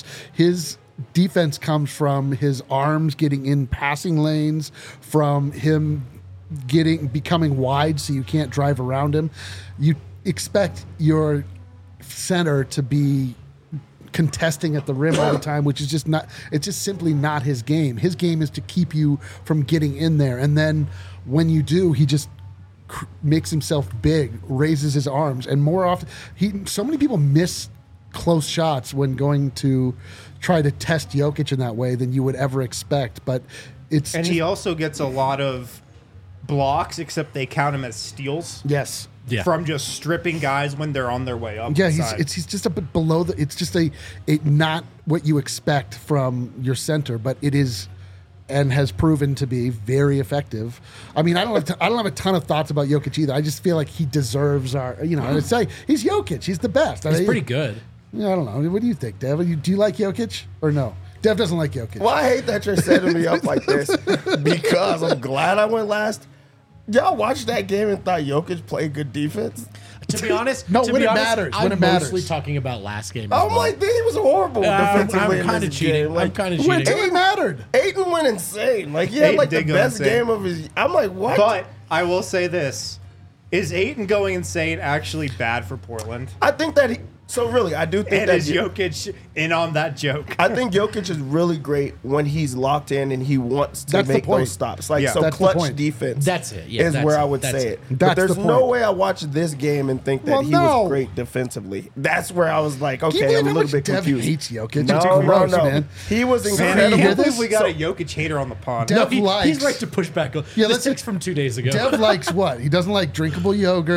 defense comes from his arms getting in passing lanes, from him becoming wide so you can't drive around him. You expect your center to be contesting at the rim all the time, which is just not, it's just simply not his game. His game is to keep you from getting in there. And then when you do, he just makes himself big, raises his arms, and more often, so many people miss close shots when going to try to test Jokic in that way than you would ever expect. But he also gets a lot of blocks, except they count him as steals. Yes. Yeah. From just stripping guys when they're on their way up. Yeah, the he's just a bit below it's just a not what you expect from your center, but it is and has proven to be very effective. I mean, I don't have a ton of thoughts about Jokic either. I just feel like he deserves our, I'd say he's Jokic. He's the best. He's pretty good. Yeah, I don't know. What do you think, Dev? Do you like Jokic or no? Dev doesn't like Jokic. Well, I hate that you're setting me up like this because I'm glad I went last. Y'all watched that game and thought Jokic played good defense? To be honest, No, when it matters, I'm when it matters. mostly talking about last game. I'm like, he was horrible defensively I'm kind of in this cheating. game. Like, I'm kind of When cheating. it mattered. Aiden went insane. Like, he had Ayton like the did go best insane. game of his. I'm like, what? But I will say this. Is Ayton going insane actually bad for Portland? I think that I do think And that is Jokic in on that joke? I think Jokic is really great when he's locked in and he wants to That's the make point. those stops. Like, Yeah. so That's the clutch point. defense. That's it. Yeah, is that's where it. I would That's say it. it. That's But there's the no point. way I watched this game and think that Well, he no. was great defensively. That's where I was like, Can you okay, believe I'm a how little much bit Dev confused. hates Jokic? No, It's no, gross, no. man. He was Man, I incredible. hear can't believe this? we got a Jokic hater on the pod. Dev He's likes. right to push back. Yeah, Yeah, let's- this takes from 2 days ago. Dev likes what? He doesn't like drinkable yogurt.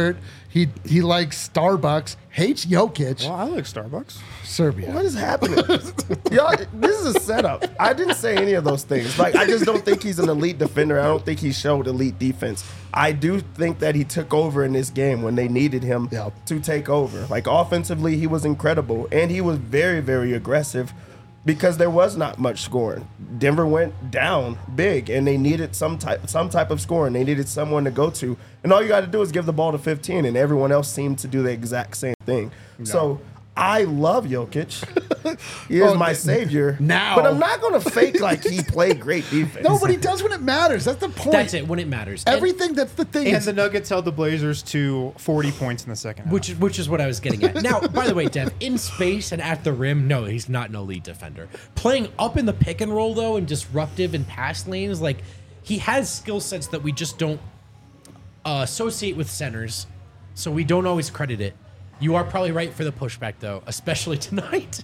He likes Starbucks, hates Jokic, Well, I like Starbucks. Serbia. What is happening? Y'all, this is a setup. I didn't say any of those things. Like, I just don't think he's an elite defender. I don't think he showed elite defense. I do think that he took over in this game when they needed him to take over. Like, offensively, he was incredible, and he was very, very aggressive because there was not much scoring. Denver went down big, and they needed some type of scoring. They needed someone to go to, and all you got to do is give the ball to 15, and everyone else seemed to do the exact same thing. No. So I love Jokic. He is my savior. Now. But I'm not going to fake like he played great defense. No, but he does when it matters. That's the point. That's it, when it matters. Everything, that's the thing. And the Nuggets held the Blazers to 40 points in the second half. Which is what I was getting at. Now, by the way, Dev, in space and at the rim, no, he's not an elite defender. Playing up in the pick and roll, though, and disruptive in pass lanes, like, he has skill sets that we just don't associate with centers, so we don't always credit it. You are probably right for the pushback, though, especially tonight.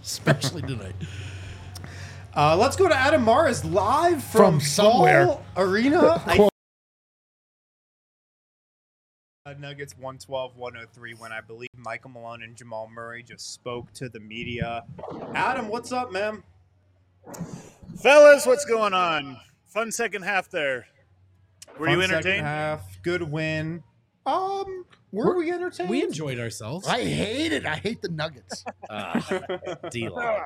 Let's go to Adam Mares live from somewhere. Ball Arena. Nuggets 112-103 when I believe Michael Malone and Jamal Murray just spoke to the media. Adam, what's up, man? Fellas, what's going on? Fun second half there. Were you Fun second entertained? half, good win. Were we entertained? We enjoyed ourselves. I hate it. I hate the Nuggets. D-Lo.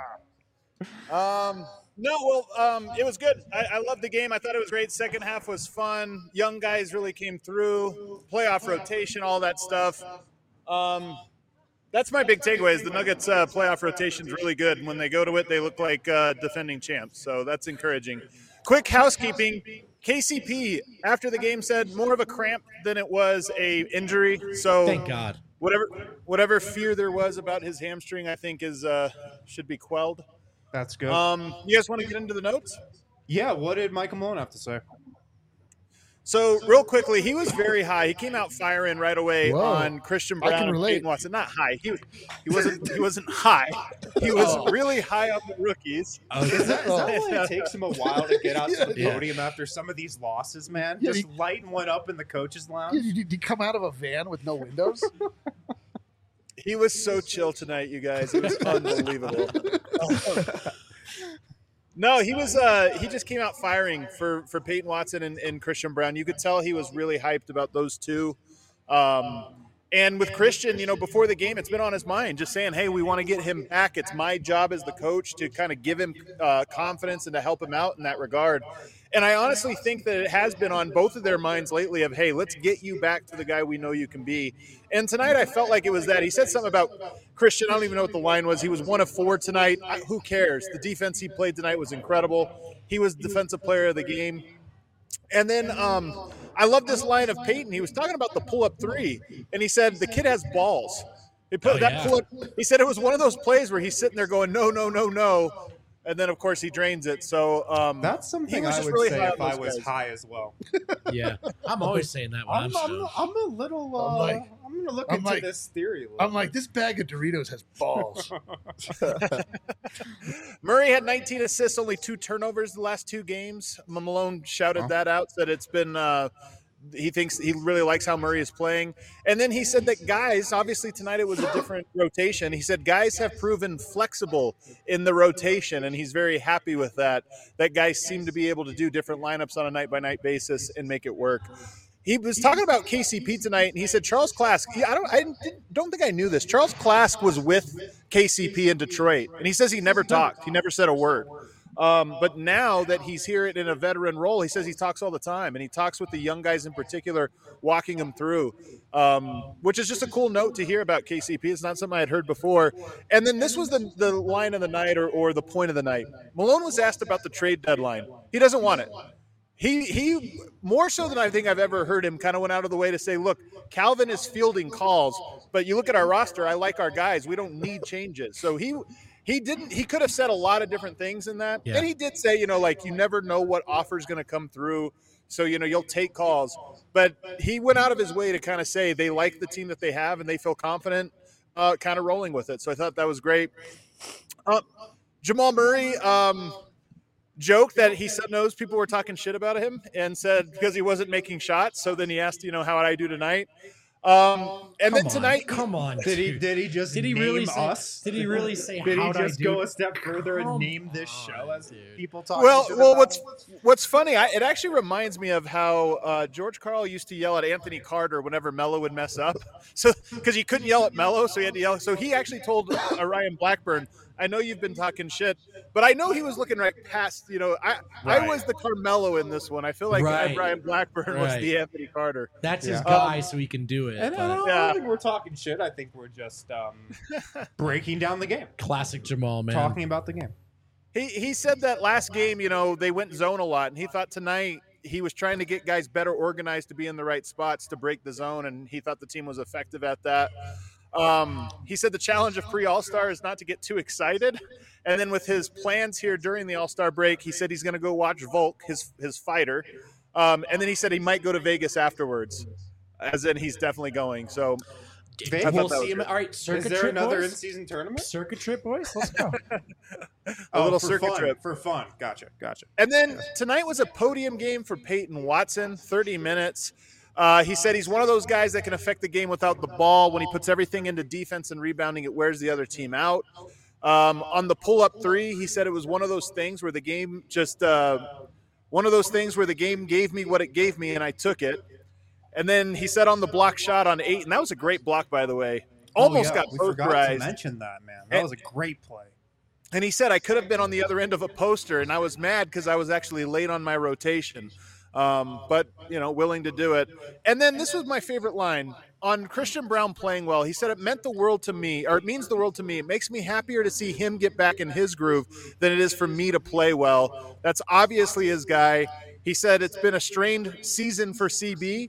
It was good. I loved the game. I thought it was great. Second half was fun. Young guys really came through. Playoff rotation, all that stuff. That's my big takeaway is the Nuggets playoff rotation is really good. And when they go to it, they look like defending champs. So that's encouraging. Quick housekeeping. KCP, after the game, said more of a cramp than it was a injury. So Thank God. Whatever fear there was about his hamstring, I think is should be quelled. That's good. You guys want to get into the notes? Yeah, what did Michael Malone have to say? So real quickly, he was very high. He came out firing right away Whoa. on Christian I Brown can and relate. Peyton Watson. Not high. He wasn't high. He was really high on the rookies. Is that why it takes him a while to get out to the podium after some of these losses, man? Yeah, Just lighting one up in the coach's lounge? Did you come out of a van with no windows? He was so chill tonight, you guys. It was unbelievable. No, he was. He just came out firing for Peyton Watson and Christian Brown. You could tell he was really hyped about those two. And with Christian, before the game, it's been on his mind, just saying, "Hey, we want to get him back. It's my job as the coach to kind of give him confidence and to help him out in that regard." And I honestly think that it has been on both of their minds lately of, hey, let's get you back to the guy we know you can be. And tonight I felt like it was that. He said something about Christian. I don't even know what the line was. He was 1 of 4 tonight. Who cares? The defense he played tonight was incredible. He was defensive player of the game. And then I love this line of Peyton. He was talking about the pull-up three, and he said the kid has balls. He put pull-up. He said it was one of those plays where he's sitting there going, no, no, no, no. And then, of course, he drains it. So that's something was I just would really say high if on I those was guys. high as well. Yeah. I'm always saying that when I'm stoned. I'm a little. I'm going to look into this theory a little. I'm like, this bag of Doritos has balls. Murray had 19 assists, only 2 turnovers the last 2 games. Malone shouted that out, said it's been he thinks he really likes how Murray is playing. And then he said that guys, obviously tonight it was a different rotation. He said guys have proven flexible in the rotation, and he's very happy with that. That guys seem to be able to do different lineups on a night-by-night basis and make it work. He was talking about KCP tonight, and he said Charles Klask. I don't think I knew this. Charles Klask was with KCP in Detroit, and he says he never talked. He never said a word. But now that he's here in a veteran role, he says he talks all the time, and he talks with the young guys in particular, walking them through, which is just a cool note to hear about KCP. It's not something I had heard before. And then this was the line of the night or the point of the night. Malone was asked about the trade deadline. He doesn't want it. He more so than I think I've ever heard him kind of went out of the way to say, look, Calvin is fielding calls, but you look at our roster, I like our guys. We don't need changes. So he could have said a lot of different things in that. Yeah. And he did say, you never know what offer is going to come through. So, you'll take calls. But he went out of his way to kind of say they like the team that they have and they feel confident kind of rolling with it. So I thought that was great. Jamal Murray joked that he knows people were talking shit about him and said because he wasn't making shots. So then he asked, how would I do tonight? And then Come on, tonight, come on. Did he? dude. Did he just? Did he name really say? us? Did he really say? Did he how'd I just do? go a step further and Come name this show on, as dude. people talking? well, shit well, about what's funny? It actually reminds me of how George Karl used to yell at Anthony Carter whenever Melo would mess up. So because he couldn't yell at Melo, so he had to yell. So he actually told Ryan Blackburn, "I know you've been talking shit, but I know he was looking right past. I Right. was the Carmelo in this one. I feel like Right. Ryan Blackburn was Right. the Anthony Carter. That's his Yeah. guy, so he can do it. And I but don't Yeah. think we're talking shit. I think we're just breaking down the game, classic Jamal, man. talking about the game. He said that last game, they went zone a lot, and he thought tonight he was trying to get guys better organized to be in the right spots to break the zone, and he thought the team was effective at that. He said the challenge of pre-All-Star is not to get too excited. And then with his plans here during the All-Star break, he said he's going to go watch Volk, his fighter. And then he said he might go to Vegas afterwards, as in he's definitely going. So Vegas? We'll that was see him. good. All right, Is circuit there trip, another boys? in-season tournament? Circuit trip, boys. Let's go. a little for circuit fun, trip. for fun. Gotcha. And then tonight was a podium game for Peyton Watson, 30 minutes. He said he's one of those guys that can affect the game without the ball. When he puts everything into defense and rebounding, it wears the other team out. On the pull-up three, he said it was one of those things where the game just one of those things where the game gave me what it gave me, and I took it. And then he said on the block shot on 8, and that was a great block, by the way. Almost got we forgot to posterized. mention that, man. That was a great play. And he said I could have been on the other end of a poster, and I was mad because I was actually late on my rotation. But, willing to do it. And then this was my favorite line. On Christian Braun playing well, he said it meant the world to me, or it means the world to me. It makes me happier to see him get back in his groove than it is for me to play well. That's obviously his guy. He said it's been a strained season for CB,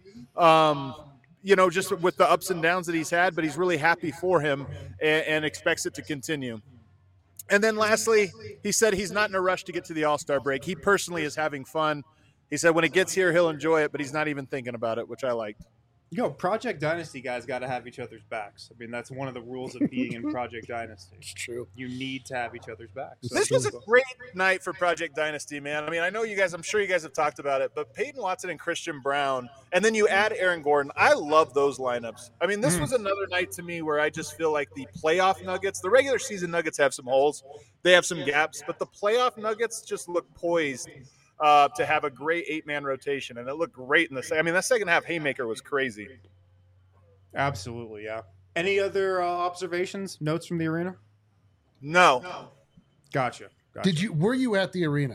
just with the ups and downs that he's had, but he's really happy for him and expects it to continue. And then lastly, he said he's not in a rush to get to the All-Star break. He personally is having fun. He said when it gets here, he'll enjoy it, but he's not even thinking about it, which I liked. Project Dynasty guys got to have each other's backs. I mean, that's one of the rules of being in Project Dynasty. It's true. You need to have each other's backs. So This was a great night for Project Dynasty, man. I mean, I know you guys, I'm sure you guys have talked about it, but Peyton Watson and Christian Braun, and then you add Aaron Gordon. I love those lineups. I mean, this was another night to me where I just feel like the playoff Nuggets, the regular season Nuggets have some holes. They have some gaps, but the playoff Nuggets just look poised to have a great 8-man rotation, and it looked great in the second. I mean, that second half haymaker was crazy. Absolutely, yeah. Any other observations, notes from the arena? No. Gotcha. Were you at the arena?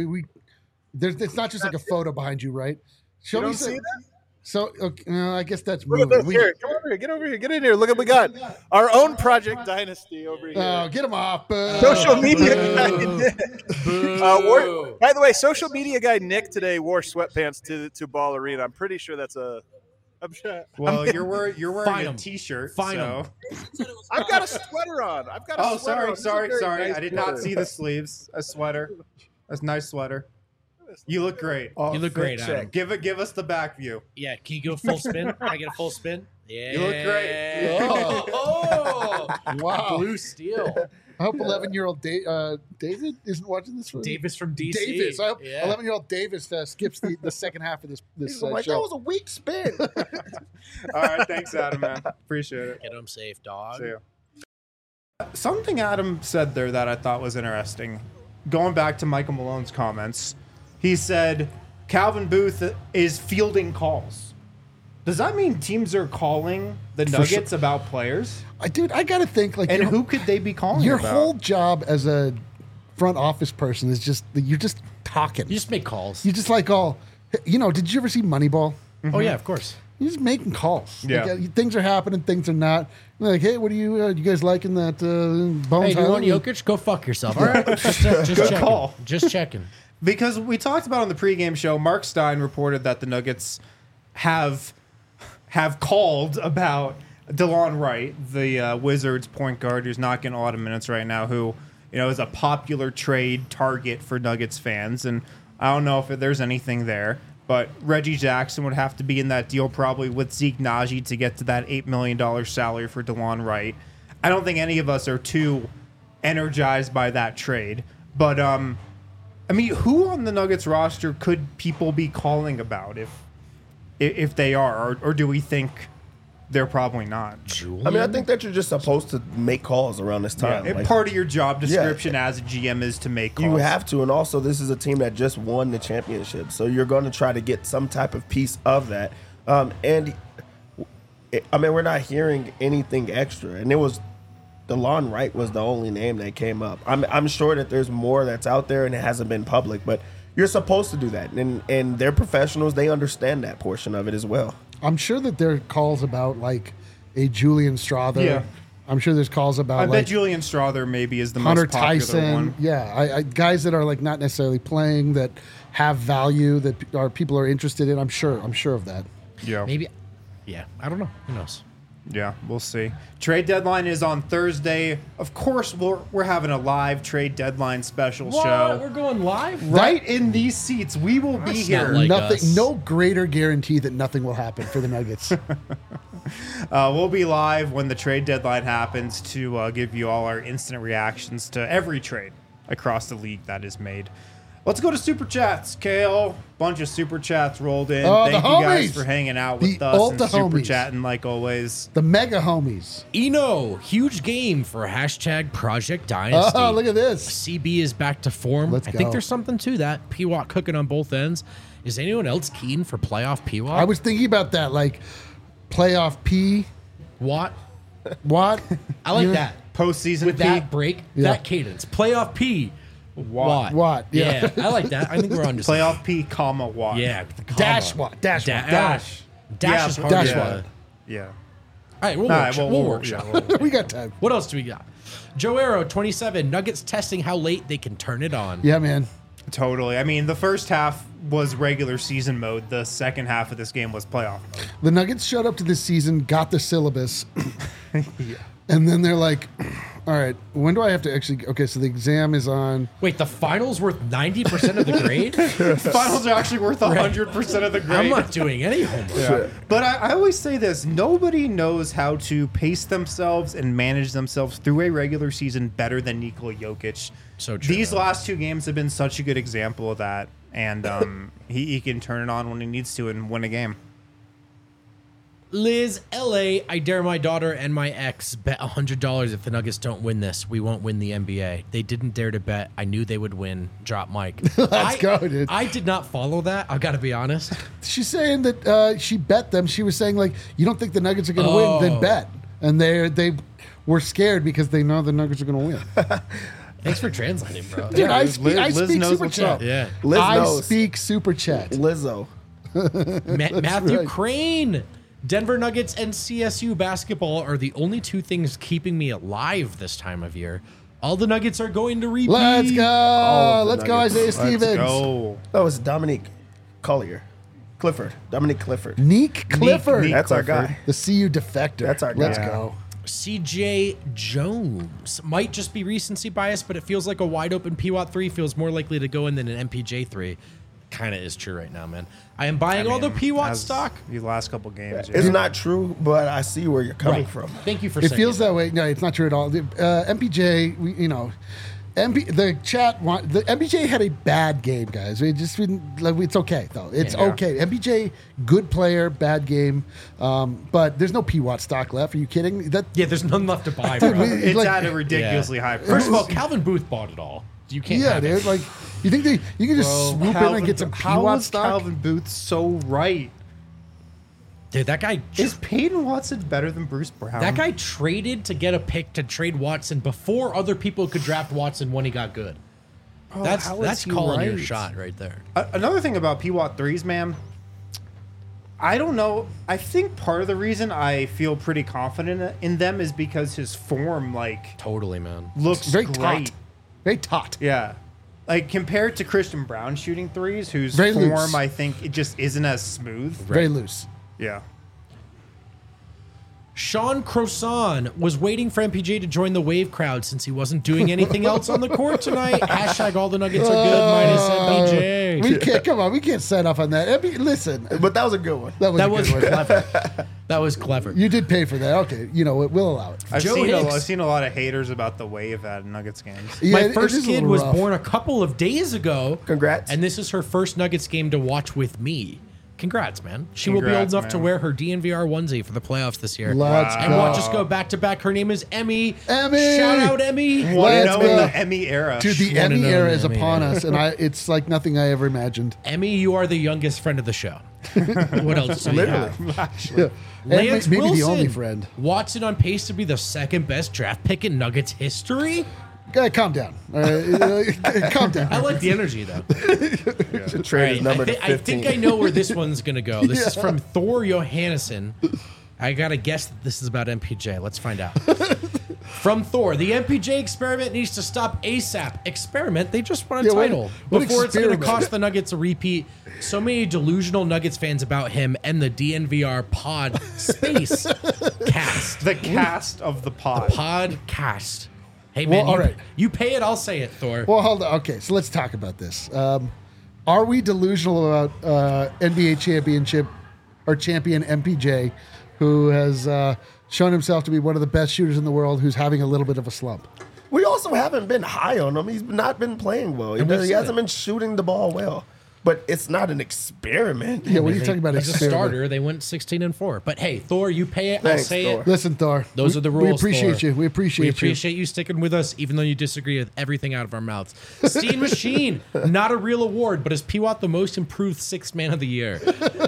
It's not just like a photo behind you, right? Show You me don't see that? So okay, I guess that's Look at moving. this. Here, come over here. Get over here. Get in here. Look what we got. Our own Project Dynasty over here. Oh, get him off. Social media guy Nick. By the way, social media guy Nick today wore sweatpants to Ball Arena. I'm pretty sure that's a. Well, you're wearing Fine a 'em. T-shirt. Fine so. 'em. I've got a sweater on. I've got a Oh, sweater on. sorry. This is a very nice I did not sweater. see the sleeves. A sweater. That's a nice sweater. You look great. You look great, Adam. Give us the back view. Yeah, can you go full spin? Can I get a full spin? Yeah. You look great. Oh, Wow. blue steel. I hope 11-year-old David isn't watching this. Davis from DC. Davis. I hope Yeah. 11-year-old Davis skips the second half of this He's like, that show. was a weak spin. All right, thanks, Adam, man. Appreciate it. Get him safe, dog. See you. Something Adam said there that I thought was interesting. Going back to Michael Malone's comments, he said Calvin Booth is fielding calls. Does that mean teams are calling the Nuggets about players? Dude, I got to think like And your- who could they be calling Your about? whole job as a front office person is just you're just talking. You just make calls. You just like did you ever see Moneyball? Oh yeah, of course. You're just making calls. Yeah. Like, things are happening, things are not. You're like, hey, what do you guys liking that Bones Hey, do you want Highland? Jokic? Go fuck yourself. All right, just Good checking. call. Just checking. Because we talked about on the pregame show, Mark Stein reported that the Nuggets have called about DeLon Wright, the Wizards point guard who's not getting a lot of minutes right now, who is a popular trade target for Nuggets fans. And I don't know if there's anything there, but Reggie Jackson would have to be in that deal probably with Zeke Naji to get to that $8 million salary for DeLon Wright. I don't think any of us are too energized by that trade, but I mean, who on the Nuggets roster could people be calling about if they are, or do we think they're probably not. I mean, I think that you're just supposed to make calls around this Yeah, time. and Like, part of your job description as a GM is to make calls. you have to, and also this is a team that just won the championship, so you're going to try to get some type of piece of that. And I mean, we're not hearing anything extra, and it was DeLon Wright was the only name that came up. I'm sure that there's more that's out there and it hasn't been public, but you're supposed to do that, and they're professionals. They understand that portion of it as well. I'm sure that there are calls about like a Julian Strother. Yeah. I'm sure there's calls about I like bet Julian Strother maybe is the Hunter most popular Tyson. one. Yeah, I guys that are like not necessarily playing that have value that people are interested in. I'm sure of that. Yeah. Maybe. Yeah, I don't know. Who knows? Yeah, we'll see. Trade deadline is on Thursday. Of course, we're having a live trade deadline special show. We're going live? Right in these seats, we will be That's here. not like Nothing. us. No greater guarantee that nothing will happen for the Nuggets. We'll be live when the trade deadline happens to give you all our instant reactions to every trade across the league that is made. Let's go to Super Chats, Kale. Bunch of Super Chats rolled in. Oh, the Thank you guys homies. for hanging out with The us and Ulta Super homies. Chatting like always. The mega homies. Eno, huge game for hashtag Project Dynasty. Oh, look at this. CB is back to form. Let's I go. think there's something to that. P-Watt cooking on both ends. Is anyone else keen for playoff P-Watt? I was thinking about that, like playoff P. Watt. What? I like You know? that. Postseason With P. that break, Yeah. that cadence. Playoff P. Watt. Watt, yeah. I like that. I think we're on to Playoff P, comma, Watt. Yeah. with the comma. Dash Watt. Dash Watt. Dash. Dash Yeah, is hard. Dash to- Watt. Yeah. All right, we'll All work. right, We'll we'll workshop. We got time. What else do we got? Joe Arrow, 27. Nuggets testing how late they can turn it on. Yeah, man. Totally. I mean, the first half was regular season mode. The second half of this game was playoff mode. The Nuggets showed up to this season, got the syllabus, and then they're like, all right, when do I have to actually... Okay, so the exam is on... Wait, the finals worth 90% of the grade? Finals are actually worth 100% of the grade. I'm not doing any homework. But I always say this: nobody knows how to pace themselves and manage themselves through a regular season better than Nikola Jokic. So true. These last two games have been such a good example of that, and he can turn it on when he needs to and win a game. Liz, LA, I dare my daughter and my ex bet $100 if the Nuggets don't win this, we won't win the NBA. They didn't dare to bet. I knew they would win. Drop Mike. Let's go, dude. I did not follow that. I've got to be honest. She's saying that she bet them. She was saying, like, you don't think the Nuggets are going to win, then Oh. bet. And they were scared because they know the Nuggets are going to win. Thanks for translating, bro. Dude, I Liz- speak, I Liz speak knows super what's chat. up. Yeah. Liz I knows. speak super chat. Lizzo. Matthew right. Crane. Denver Nuggets and CSU basketball are the only two things keeping me alive this time of year. All the Nuggets are going to repeat. Let's go. of the Let's go, Nuggets. Isaiah Let's Stevens. go. That was Dominique Collier. Dominique Clifford. Neek Clifford. Neek. That's our Clifford. guy. The CU defector. That's our Let's guy. go. CJ Jones. Might just be recency bias, but it feels like a wide open PWAT 3 feels more likely to go in than an MPJ 3. Kind of is true right now, man. I am buying all the PWAT as stock. The last couple games. It's not true, but I see where you're coming from. Thank you for It saying feels that way. No, it's not true at all. MPJ, the MPJ had a bad game, guys. It just didn't, like, it's okay though. It's Yeah. okay. MPJ, good player, bad game, but there's no PWAT stock left. Are you kidding? That Yeah, there's none left to buy. Dude, bro. It's like- at a ridiculously high price. First of all, Calvin Booth bought it all. You can't. yeah, have it. dude. Like, you think you can just swoop in and get some how PWAT was stock? Calvin Booth so right? Dude, that guy. Is Peyton Watson better than Bruce Brown? That guy traded to get a pick to trade Watson before other people could draft Watson when he got good. That's how is he calling your right? shot right there. Another thing about PWAT 3s, man, I don't know. I think part of the reason I feel pretty confident in them is because his form, like, Totally, man. looks Very great. taut. Very taut. Yeah. Like, compared to Christian Brown shooting threes, whose Very form, loose. I think, it just isn't as smooth. Very loose. Yeah. Sean Croissant was waiting for MPJ to join the wave crowd since he wasn't doing anything else on the court tonight. Hashtag all the Nuggets are good minus MPJ. We can't come on. We can't set off on that. Listen, But that was a good one. that was That a was good one. clever. That was clever. You did pay for that. Okay, we'll allow it. I've Joe seen, Hicks. I've seen a lot of haters about the wave at Nuggets games. Yeah, My it first is a kid little was rough. born a couple of days ago. Congrats. And this is her first Nuggets game to watch with me. Congrats, man. She will be old Congrats, enough to man. wear her DNVR onesie for the playoffs this year. Let's And go. watch us go back to back. Her name is Emmy. Emmy! Shout out Emmy. One Let's in go. the Emmy era. Dude, the Wanna Emmy know era the is Emmy upon era. us, and it's like nothing I ever imagined. Emmy, you are the youngest friend of the show. What else do we have? Yeah. And Lance maybe Wilson. the only friend. Watson on pace to be the second best draft pick in Nuggets history. Calm down. All right? Calm down. I like the energy, though. Should trade his number to 15. I think I know where this one's going to go. This is from Thor Johannesson. I got to guess that this is about MPJ. Let's find out. From Thor, the MPJ experiment needs to stop ASAP. Experiment? They just won a Yeah, what- title. what Before it's going to experiment? cost the Nuggets a repeat. So many delusional Nuggets fans about him and the DNVR pod space cast. The cast of the pod. Podcast. Hey, man, Well, all right. you pay it, I'll say it, Thor. Well, hold on. Okay, so let's talk about this. Are we delusional about NBA championship or champion MPJ, who has shown himself to be one of the best shooters in the world, who's having a little bit of a slump? We also haven't been high on him. He's not been playing well. He we've seen hasn't it. been shooting the ball well. But it's not an experiment. Yeah, what are you talking about? As a experiment? starter, they went 16-4. But hey, Thor, you pay it, I'll Thanks, say Thor. it. Listen, Thor. Those are the rules. We appreciate Thor. you. We appreciate We you. appreciate you sticking with us, even though you disagree with everything out of our mouths. Steam Machine, not a real award, but is Piwat the most improved sixth man of the year?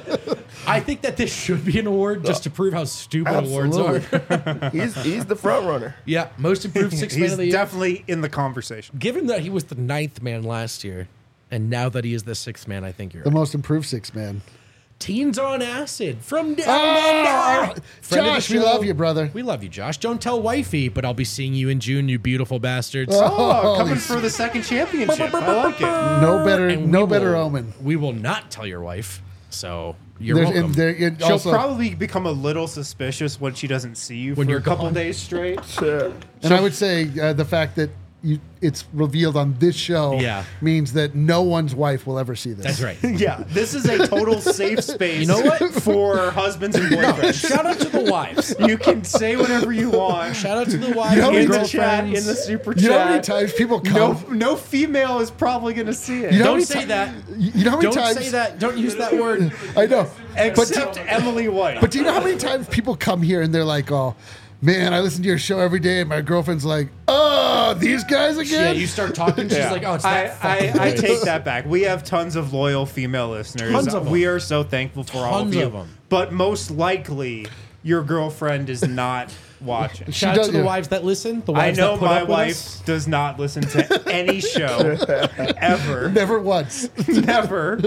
I think that this should be an award just to prove how stupid awards are. He's the front runner. Yeah, most improved sixth man He's of the year. definitely in the conversation. Given that he was the ninth man last year, and now that he is the sixth man, I think you're The right. most improved six man. Teens on Acid from down Oh, under. Friend of the Josh, we show. love you, brother. We love you, Josh. Don't tell wifey, but I'll be seeing you in June, you beautiful bastards. Oh, coming for the second championship. I like it. No better, And no we better will- omen. We will not tell your wife, so you're There's- welcome. and there- it She'll also- probably become a little suspicious when she doesn't see you When for you're a couple gone. days straight. and I would say the fact that it's revealed on this show Yeah. means that no one's wife will ever see this. That's right. Yeah, this is a total safe space. You know what? For husbands and boyfriends. Shout out to the wives. You can say whatever you want. Shout out to the wives You know how and many in the chat, girlfriends. in the super chat. You know how many times people come? No female is probably going to see it. You know how Don't many say ti- that. You know how many Don't times? say that. Don't use that word. I know. Except Emily White. But do you know how many times people come here and they're like, "Oh, man, I listen to your show every day," and my girlfriend's like, "Oh, these guys Yeah, again." you start talking, she's like, oh, it's that fucking I voice. take that back. We have tons of loyal female listeners. Tons of them. We are so thankful for all of Tons you. of them. But most likely, your girlfriend is not watching. Shout out does- to the yeah. wives that listen. The I wives know that put my up with wife us. does not listen to any show ever. Never once. Never.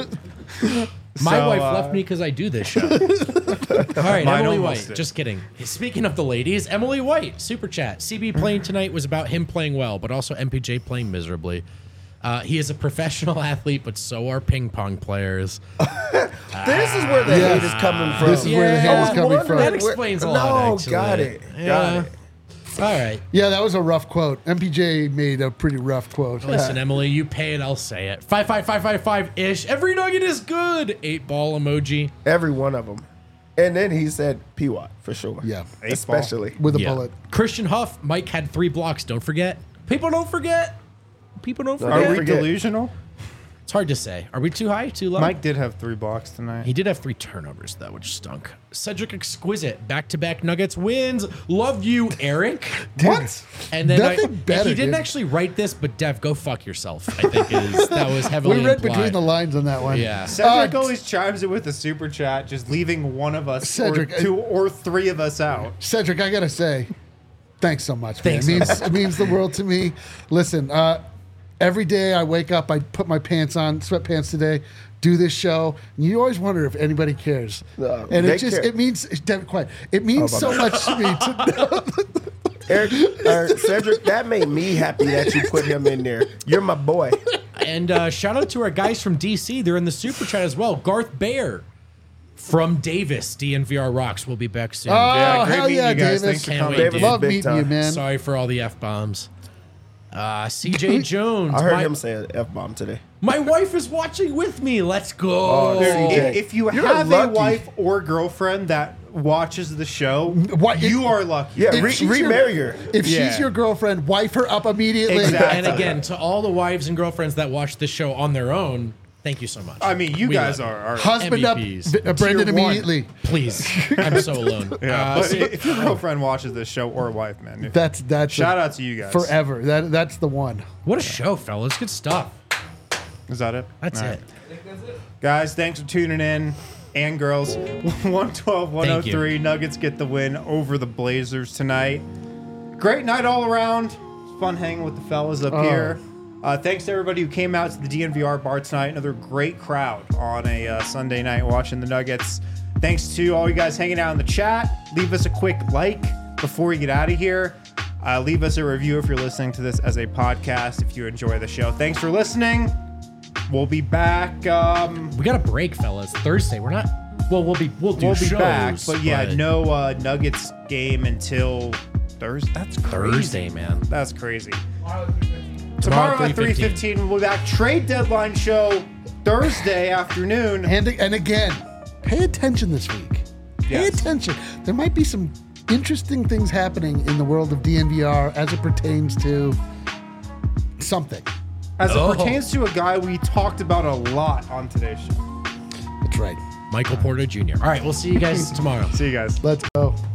My So, wife left me because I do this show. All right, Mine Emily almost White. did. Just kidding. Speaking of the ladies, Emily White, super chat. CB playing tonight was about him playing well, but also MPJ playing miserably. He is a professional athlete, but so are ping pong players. This is where the Yeah. hate is coming from. This is where the hate is I'm coming wondering from. That where- explains a lot, No, actually. got it. Yeah. Got it. All right. Yeah, that was a rough quote. MPJ made a pretty rough quote. Listen, Emily, you pay it, I'll say it. 55555-ish. Every nugget is good. 8-ball emoji. Every one of them. And then he said P-Watt for sure. Yeah. Especially. With a Yeah. bullet. Christian Huff, Mike had 3 blocks. Don't forget. People don't forget. People don't No, Are forget. don't we forget. delusional? It's hard to say. Are we too high, too low? Mike did have 3 blocks tonight. He did have 3 turnovers, though, which stunk. Cedric Exquisite, back-to-back Nuggets wins. Love you, Eric. What? And then Nothing better, he didn't dude. actually write this, but Dev, go fuck yourself. I think that was heavily We read implied. between the lines on that one. Yeah. Cedric Uh, always chimes in with a super chat, just leaving one of us Cedric, or 2 or 3 of us out. Cedric, I gotta say, thanks so much, man. Thanks It means the world to me. Listen, every day I wake up, I put my pants on, sweatpants today, do this show, and you always wonder if anybody cares. No, And they it just care. it means quiet. It means so much to me to know. Eric, Cedric, that made me happy that you put him in there. You're my boy. And shout out to our guys from DC. They're in the super chat as well. Garth Baer from Davis, DNVR Rocks. We'll be back soon. Oh, Yeah, great hell meeting yeah, you guys. Davis. Thanks for Can't coming. wait, Davis dude. Love big meeting you, time. man. Sorry for all the F-bombs. CJ Jones. I heard my, him say an F-bomb today. my wife is watching with me. Let's go. Oh, Dude, CJ. if you You're have a lucky. wife or girlfriend that watches the show, What- you are lucky. Yeah, If she's remarry her. If Yeah. she's your girlfriend, wife her up immediately. Exactly. And again, to all the wives and girlfriends that watch this show on their own, Thank you so much. I mean, you We guys love are Husband MVPs. up, Brendan Tier one. immediately. Please, I'm so alone. Yeah, but if your girlfriend watches this show or wife, man, That's shout out to you guys. forever. That's the one. What a show, fellas! Good stuff. Is that it? That's All it. right. Guys, thanks for tuning in. And girls, 112-103. Nuggets get the win over the Blazers tonight. Great night all around. Fun hanging with the fellas up here. Thanks to everybody who came out to the DNVR bar tonight. Another great crowd on a Sunday night watching the Nuggets. Thanks to all you guys hanging out in the chat. Leave us a quick like before you get out of here. Leave us a review if you're listening to this as a podcast if you enjoy the show. Thanks for listening. We'll be back. We got a break, fellas. Thursday. We're not. Well, we'll do shows, back, but yeah, no Nuggets game until Thursday. That's crazy. Thursday, man. That's crazy. Tomorrow at 3:15, we'll be back. Trade deadline show Thursday afternoon. And again, pay attention this week. Pay Yes. attention. There might be some interesting things happening in the world of DNVR as it pertains to something. As it pertains to a guy we talked about a lot on today's show. That's right. Michael Porter Jr. All right, we'll see you guys tomorrow. See you guys. Let's go.